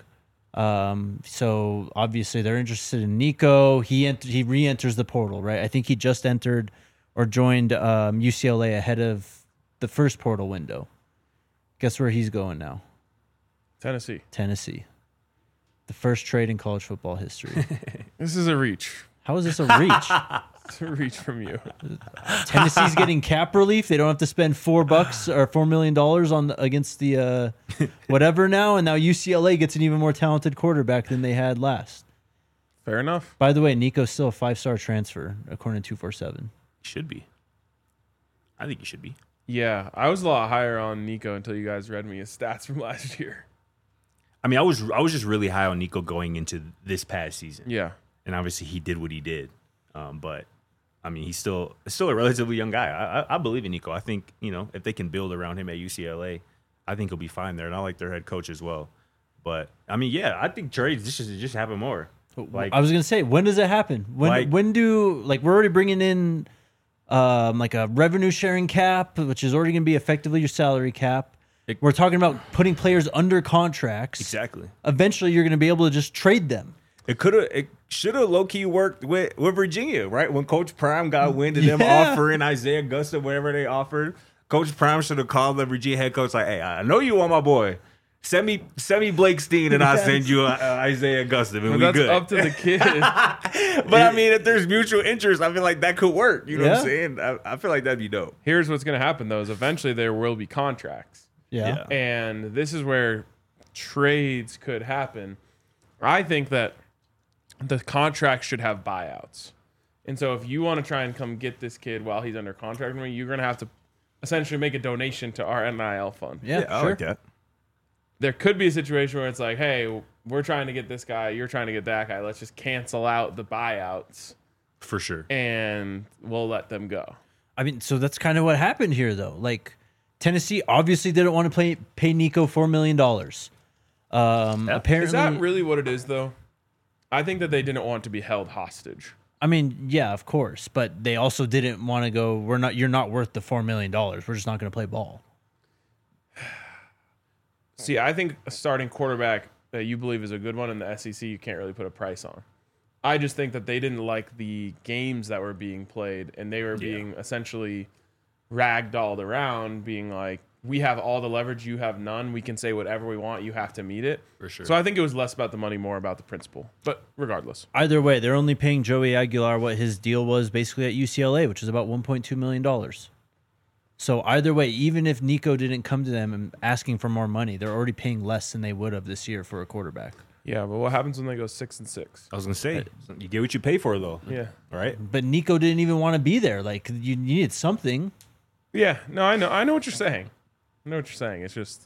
So obviously they're interested in Nico. He re-enters the portal, right? I think he just entered or joined UCLA ahead of the first portal window. Guess where he's going now? Tennessee. Tennessee. The first trade in college football history. This is a reach. How is this a reach? It's a reach from you. Tennessee's getting cap relief. They don't have to spend $4 or $4 million on against the whatever now, and now UCLA gets an even more talented quarterback than they had last. Fair enough. By the way, Nico's still a 5-star transfer according to 247. Should be. I think he should be. Yeah, I was a lot higher on Nico until you guys read me his stats from last year. I mean, I was just really high on Nico going into this past season. Yeah. And obviously he did what he did. But I mean, he's still a relatively young guy. I believe in Nico. I think, if they can build around him at UCLA, I think he'll be fine there. And I like their head coach as well. But I mean, yeah, I think trades just happen more. Like I was gonna say, when does it happen? When do we're already bringing in like a revenue sharing cap, which is already gonna be effectively your salary cap. We're talking about putting players under contracts. exactly. Eventually, you're gonna be able to just trade them. It should have low key worked with Virginia, right? When Coach Prime got wind of them Yeah. offering Isaiah Augusta, whatever they offered, Coach Prime should have called the Virginia head coach like, "Hey, I know you want my boy. Send me Blake Steen, and I'll send you Isaiah Augusta, and But we that's good." up to the kid. But I mean, if there's mutual interest, I feel like that could work. You know what I'm Yeah. saying? I feel like that'd be dope. Here's what's going to happen, though, is eventually there will be contracts. Yeah. And this is where trades could happen. I think that the contract should have buyouts. And so if you want to try and come get this kid while he's under contract with me, you're going to have to essentially make a donation to our NIL fund. Yeah, I sure. like that. There could be a situation where it's like, hey, we're trying to get this guy, you're trying to get that guy. Let's just cancel out the buyouts For sure. and we'll let them go. I mean, so that's kind of what happened here, though. Like, Tennessee obviously didn't want to pay Nico $4 million. Apparently, Is that really what it is, though? I think that they didn't want to be held hostage. I mean, yeah, of course, but they also didn't want to go. You're not worth the $4 million. We're just not going to play ball. See, I think a starting quarterback that you believe is a good one in the SEC, you can't really put a price on. I just think that they didn't like the games that were being played, and they were being essentially ragdolled around, being like, we have all the leverage, you have none. We can say whatever we want. You have to meet it. For sure. So I think it was less about the money, more about the principle. But regardless. Either way, they're only paying Joey Aguilar what his deal was basically at UCLA, which is about $1.2 million. So either way, even if Nico didn't come to them and asking for more money, they're already paying less than they would have this year for a quarterback. Yeah, but what happens when they go 6-6? I was gonna say, you get what you pay for, though. Yeah. Right. But Nico didn't even want to be there. Like, you needed something. Yeah, no, I know what you're saying. I know what you're saying. It's just,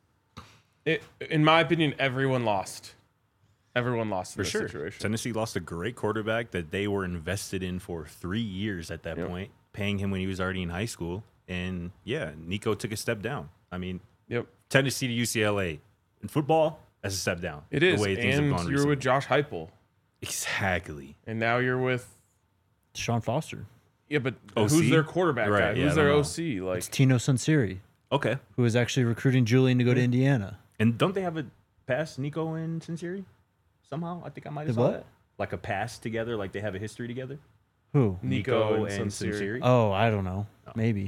in my opinion, everyone lost. Everyone lost in For this sure. situation. Tennessee lost a great quarterback that they were invested in for 3 years at that point, paying him when he was already in high school. And yeah, Nico took a step down. I mean, Yep, Tennessee to UCLA in football, that's a step down. it is. The way things have And gone you're recently. with Josh Heupel, Exactly. and now you're with Sean Foster. yeah, but OC? who's their quarterback Right, guy? yeah, Who's I their don't OC? Like, It's Tino Sunseri, Okay. who is actually recruiting Julian to go to Indiana. And don't they have a pass, Nico and Sincere? Somehow? I think I might have The saw what? that. Like a pass together, like they have a history together. Who? Nico and Sincere. Sincere. Oh, I don't know. Maybe.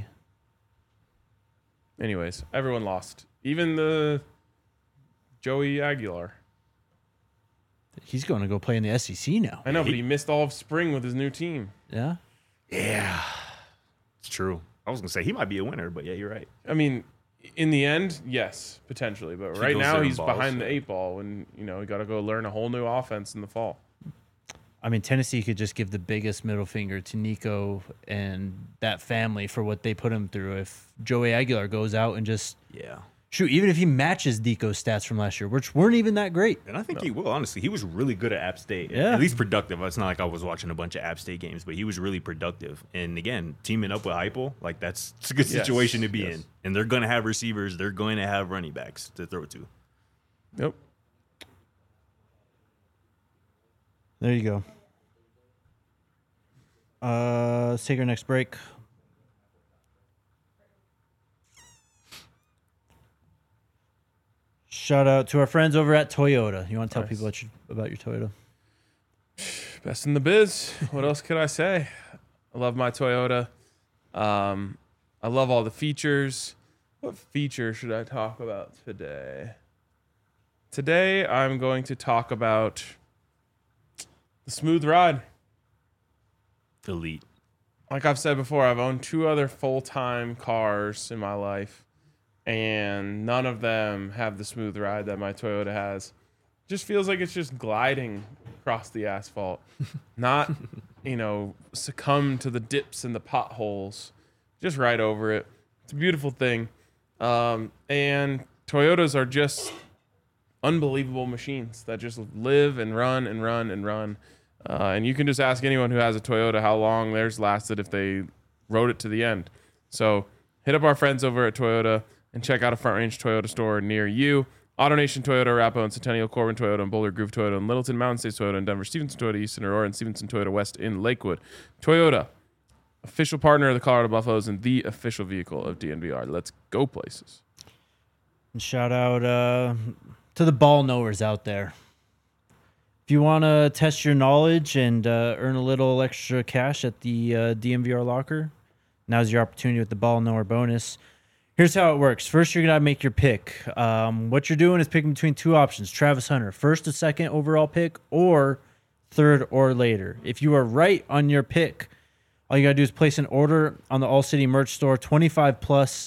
anyways, everyone lost. Even the Joey Aguilar. He's going to go play in the SEC now. I know, but he missed all of spring with his new team. Yeah. Yeah. It's true. I was gonna say he might be a winner, but yeah, you're right. I mean, in the end, yes, potentially. But He right goes now, there and he's balls, behind the yeah. 8 ball, and you got to go learn a whole new offense in the fall. I mean, Tennessee could just give the biggest middle finger to Nico and that family for what they put him through. If Joey Aguilar goes out and just Yeah. shoot, even if he matches Nico's stats from last year, which weren't even that great. And I think he will, honestly. He was really good at App State. Yeah. At least productive. It's not like I was watching a bunch of App State games, but he was really productive. And again, teaming up with Heupel, like it's a good Yes, situation to be yes. in. And they're going to have receivers. They're going to have running backs to throw to. Yep. There you go. Let's take our next break. Shout out to our friends over at Toyota. You want to tell Nice. people about your Toyota? Best in the biz. What else could I say? I love my Toyota. I love all the features. What feature should I talk about today? Today, I'm going to talk about the smooth ride. Elite. Like I've said before, I've owned 2 other full-time cars in my life, and none of them have the smooth ride that my Toyota has. Just feels like it's just gliding across the asphalt, not, succumb to the dips and the potholes, just right over it. It's a beautiful thing. And Toyotas are just unbelievable machines that just live and run and run and run. And you can just ask anyone who has a Toyota how long theirs lasted if they rode it to the end. So hit up our friends over at Toyota and check out a Front Range Toyota store near you. AutoNation Toyota, Arapahoe and Centennial, Corbin Toyota, and Boulder Groove Toyota, and Littleton, Mountain States Toyota, and Denver, Stevenson Toyota, East in Aurora, and Stevenson Toyota West in Lakewood. Toyota, official partner of the Colorado Buffaloes and the official vehicle of DNVR. Let's go places. And shout out to the ball knowers out there. If you want to test your knowledge and earn a little extra cash at the DMVR locker, now's your opportunity with the ball knower bonus. Here's how it works. First, you're going to make your pick. What you're doing is picking between 2 options. Travis Hunter, first or second overall pick, or third or later. If you are right on your pick, all you got to do is place an order on the All City merch store, 25 plus,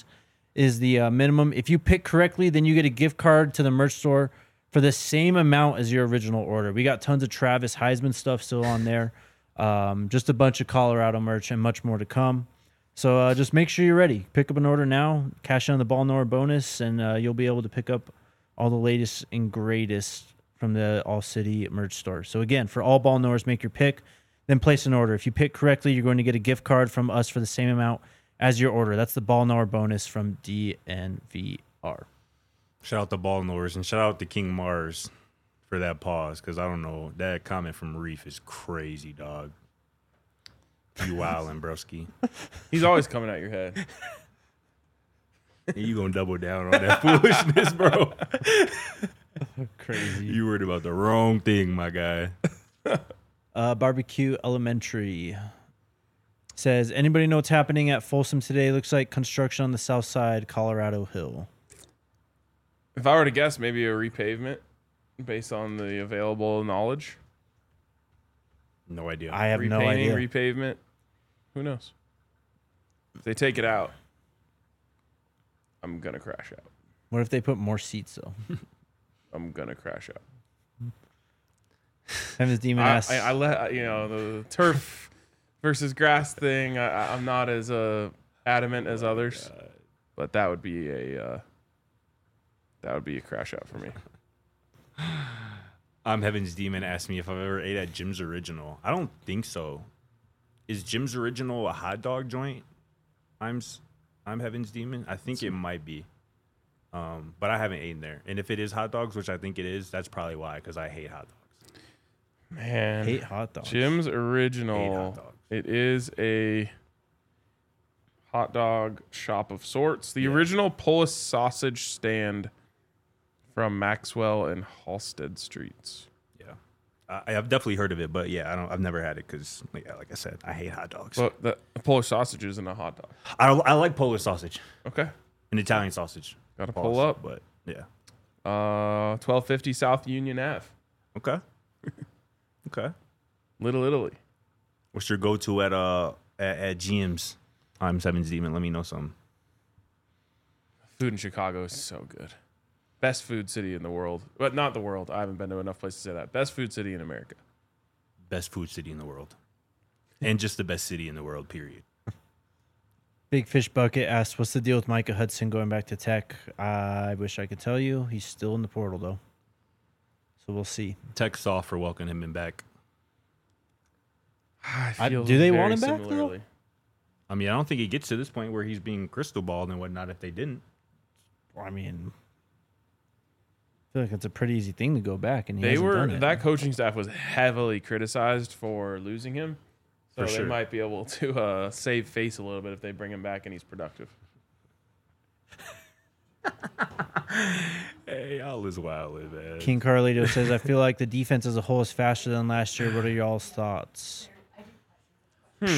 is the minimum. If you pick correctly, then you get a gift card to the merch store for the same amount as your original order. We got tons of Travis Heisman stuff still on there. Just a bunch of Colorado merch and much more to come. So just make sure you're ready. Pick up an order now, cash in on the Ball Nor bonus, and you'll be able to pick up all the latest and greatest from the All City merch store. So again, for all Ball Nors, make your pick, then place an order. If you pick correctly, you're going to get a gift card from us for the same amount as your order. That's the Ball Nor bonus from DNVR. Shout out to Ball Nors and shout out to King Mars for that pause, because I don't know, that comment from Reef is crazy, dog. You wildin', broski. He's always coming at your head. You gonna double down on that foolishness, bro. Crazy. You worried about the wrong thing, my guy. Barbecue Elementary says, anybody know what's happening at Folsom today? Looks like construction on the south side, Colorado Hill. If I were to guess, maybe a repavement based on the available knowledge. No idea. I have no idea. Repavement. Who knows? If they take it out, I'm going to crash out. What if they put more seats, though? I'm going to crash out. Heaven's Demon asks. I let, the turf versus grass thing, I'm not as adamant as others, but that would be a crash out for me. Heaven's Demon asked me if I've ever ate at Jim's Original. I don't think so. Is Jim's Original a hot dog joint? I'm Heaven's Demon. I think it might be. But I haven't eaten there. And if it is hot dogs, which I think it is, that's probably why, because I hate hot dogs. Man. Hate hot dogs. Jim's Hate Original. hot dogs. It is a hot dog shop of sorts. The original Polish sausage stand from Maxwell and Halstead Streets. Yeah. I've definitely heard of it, but yeah, I've never had it because, like I said, I hate hot dogs. But the Polish sausage isn't a hot dog. I like Polish sausage Okay. and Italian sausage. Got to Pause, pull up. But yeah. 1250 South Union Ave. Okay. Okay. Little Italy. What's your go-to at GM's? I'm Seven's Demon. Let me know something. Food in Chicago is so good. Best food city in the world. But not the world. I haven't been to enough places to say that. Best food city in America. Best food city in the world. And just the best city in the world, period. Big Fish Bucket asks, what's the deal with Micah Hudson going back to Tech? I wish I could tell you. He's still in the portal, though. So we'll see. Tech's off for welcoming him back. I feel do they very want him back, though? similarly. I mean, I don't think he gets to this point where he's being crystal balled and whatnot if they didn't. I mean, I feel like it's a pretty easy thing to go back, and he They hasn't were done it. that coaching staff was heavily criticized for losing him. So For they sure. might be able to save face a little bit if they bring him back and he's productive. Hey, all is wild, man. King Carlito says, I feel like the defense as a whole is faster than last year. What are y'all's thoughts? I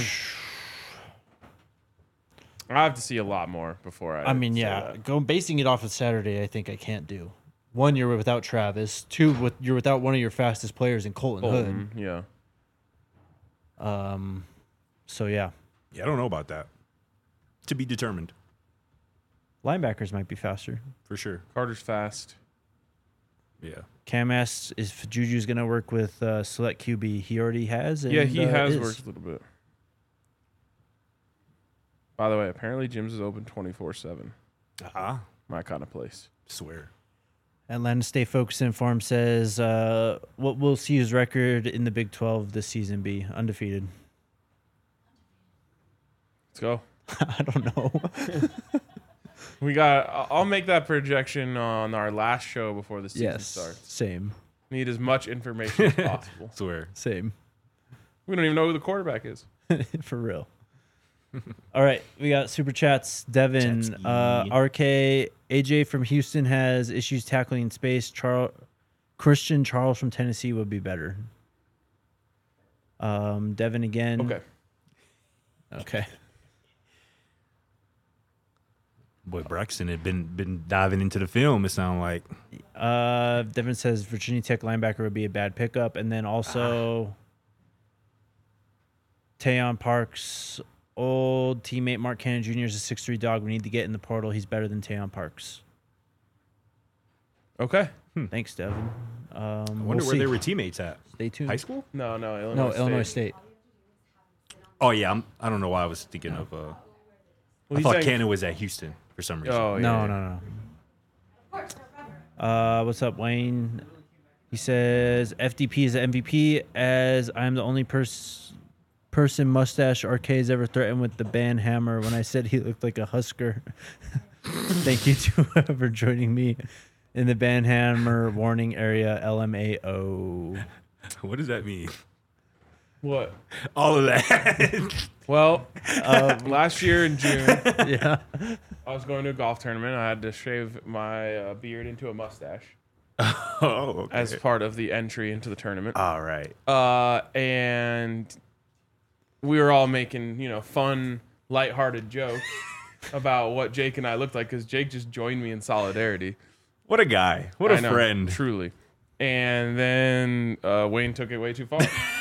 have to see a lot more before I. I mean, say yeah, that. basing it off of Saturday, I think I can't do. One, you're without Travis. Two, you're without one of your fastest players in Colton Bolton, yeah. Hood. So yeah, Yeah, I don't know about that. To be determined, linebackers might be faster. for sure. Carter's fast. Yeah. Cam asks if Juju's going to work with select QB. He already has. And, Yeah, he has is. worked a little bit. By the way, apparently Jim's is open 24/7. My kind of place. Swear. Atlanta State Focus Inform says, what will CU's record in the Big 12 this season be? Undefeated. Let's go. I don't know. I'll make that projection on our last show before the season Yes, starts. same. Need as much information as possible. Swear. Same. We don't even know who the quarterback is. For real. All right, we got super chats. Devin, Jetski. RK, AJ from Houston has issues tackling in space. Christian Charles from Tennessee would be better. Devin again. Okay. Boy, Braxton had been diving into the film, it sounded like. Devin says Virginia Tech linebacker would be a bad pickup, and then also Tayon Parks old teammate Mark Cannon Jr. is a 6'3" dog. We need to get in the portal. He's better than Tayon Parks. Okay. Thanks, Devin. I wonder where they were teammates at. Stay tuned. High school? No, Illinois No, State. Illinois State. Oh yeah, I don't know why I was thinking of. Well, I he's thought saying- Cannon was at Houston for some reason. Oh, yeah. No. What's up, Wayne? He says FDP is the MVP as I am the only person mustache RK has ever threatened with the band hammer when I said he looked like a Husker. Thank you to whoever joining me in the band hammer warning area LMAO. What does that mean? What? All of that. Well, last year in June, Yeah. I was going to a golf tournament. I had to shave my beard into a mustache Oh, okay. as part of the entry into the tournament. All right. And we were all making, fun, lighthearted jokes about what Jake and I looked like because Jake just joined me in solidarity. What a guy. What I a know, friend. truly. And then Wayne took it way too far.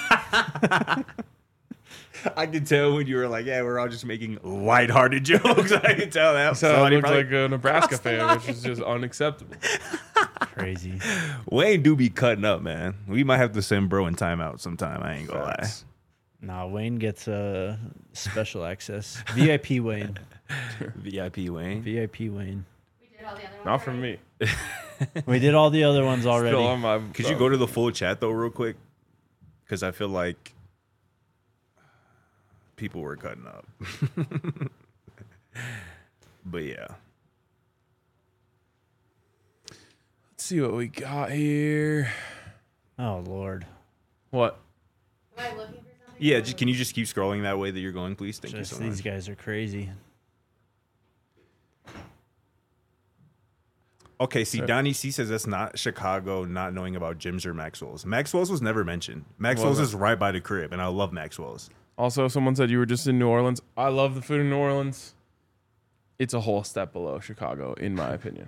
I could tell when you were like, yeah, we're all just making lighthearted jokes. I could tell that. So I Somebody looked probably- like a Nebraska fan, which is just unacceptable. Crazy. Wayne do be cutting up, man. We might have to send bro in timeout sometime. I ain't gonna lie. Facts. Nah, Wayne gets special access. VIP Wayne. VIP Wayne. VIP Wayne. We did all the other ones Not from already. me. We did all the other ones already. Still on my. Could you go to the full chat though, real quick? Because I feel like people were cutting up. But yeah. Let's see what we got here. Oh Lord. What? Am I looking for something? Yeah, can you just keep scrolling that way that you're going, please? Thank Just you so these much. guys are crazy. Okay, see, Sir. Donnie C says that's not Chicago not knowing about gyms or Maxwell's. Maxwell's was never mentioned. Maxwell's Wasn't. is right by the crib, and I love Maxwell's. Also, someone said you were just in New Orleans. I love the food in New Orleans. It's a whole step below Chicago, in my opinion.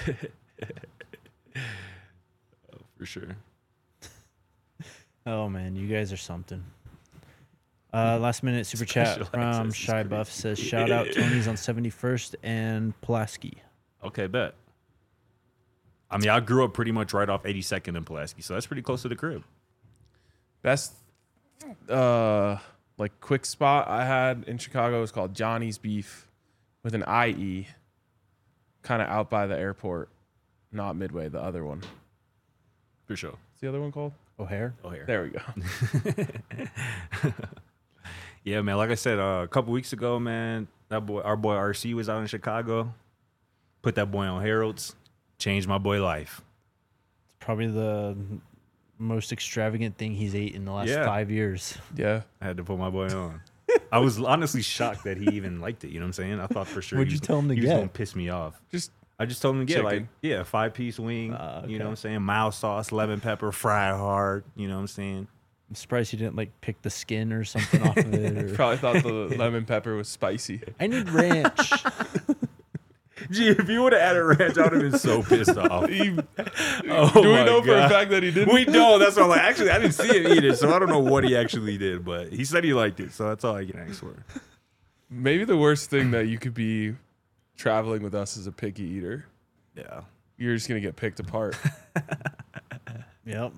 For sure. Oh man, you guys are something. Last minute super chat Special from access is Shy crazy. Buff says shout out Tony's on 71st and Pulaski. Okay, bet. I mean, I grew up pretty much right off 82nd and Pulaski, so that's pretty close to the crib. Best, quick spot I had in Chicago was called Johnny's Beef with an IE, kind of out by the airport, not Midway, the other one. For sure. What's the other one called? O'Hare. Oh, here. There we go. Yeah, man. Like I said, a couple weeks ago, man, our boy RC was out in Chicago. Put that boy on Harold's. Changed my boy life. It's probably the most extravagant thing he's ate in the last Yeah. 5 years. Yeah. I had to put my boy on. I was honestly shocked that he even liked it. You know what I'm saying? I thought for sure What'd you tell him to he was get? gonna piss me off. I just told him to get Chicken. a 5-piece wing. Okay. You know what I'm saying? Mild sauce, lemon pepper, fried hard. You know what I'm saying? I'm surprised he didn't pick the skin or something off of it. Or... Probably thought the lemon pepper was spicy. I need ranch. Gee, if you would have added ranch, I would have been so pissed off. Do we my know for a God. fact that he didn't? We don't. That's what I'm like. Actually, I didn't see him eat it, so I don't know what he actually did. But he said he liked it, so that's all I can ask for. Maybe the worst thing that you could be traveling with us as a picky eater. Yeah. You're just going to get picked apart. Yep.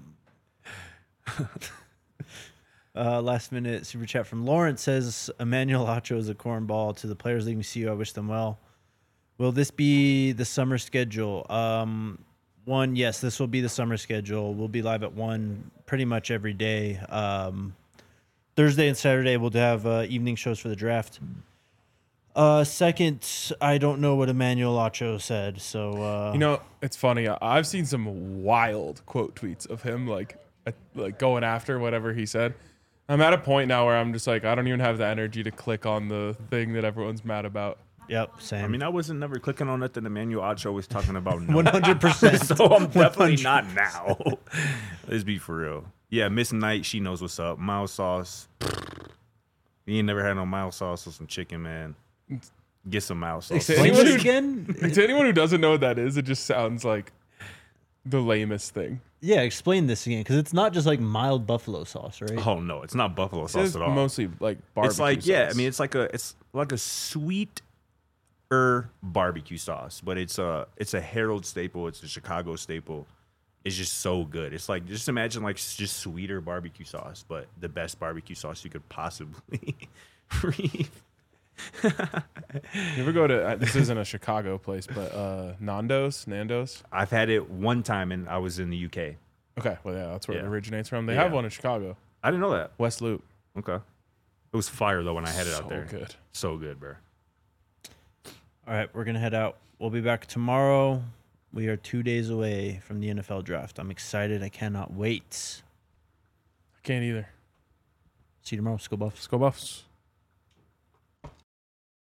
Last minute super chat from Lawrence says Emmanuel Acho is a cornball to the players leaving CU. I wish them well. Will this be the summer schedule? One, yes, this will be the summer schedule. We'll be live at 1 pretty much every day. Thursday and Saturday we'll have evening shows for the draft. Second, I don't know what Emmanuel Acho said, so It's funny. I've seen some wild quote tweets of him like going after whatever he said. I'm at a point now where I'm just like, I don't even have the energy to click on the thing that everyone's mad about. yep, same. I mean, I wasn't never clicking on nothing Emmanuel Acho was talking about. No. 100%. So I'm definitely not now. Let's be for real. Yeah, Miss Knight, she knows what's up. Mild sauce. You ain't never had no mild sauce with some chicken, man. Get some mild sauce. Say Explain anyone this who- again? To anyone who doesn't know what that is, it just sounds like The lamest thing. Yeah, explain this again, because it's not just like mild buffalo sauce, right? Oh no, it's not buffalo sauce It's at all. mostly like barbecue It's like sauce. I mean, it's like a sweet barbecue sauce, but it's a Harold staple. It's a Chicago staple. It's just so good. It's like, just imagine like just sweeter barbecue sauce, but the best barbecue sauce you could possibly read. You ever go to this isn't a Chicago place, but Nando's? I've had it one time and I was in the UK. Okay, well yeah, that's where it Yeah. originates from. They Yeah. have one in Chicago, I didn't know that. West Loop. Okay. It was fire though when I had it out So there. good. So good, bro. All right, we're gonna head out. We'll be back tomorrow. We are 2 days away from the NFL draft. I'm excited. I cannot wait. I can't either. See you tomorrow. Let's go Buffs. Let's go Buffs.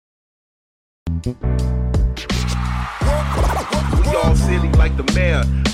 We all silly like the mayor.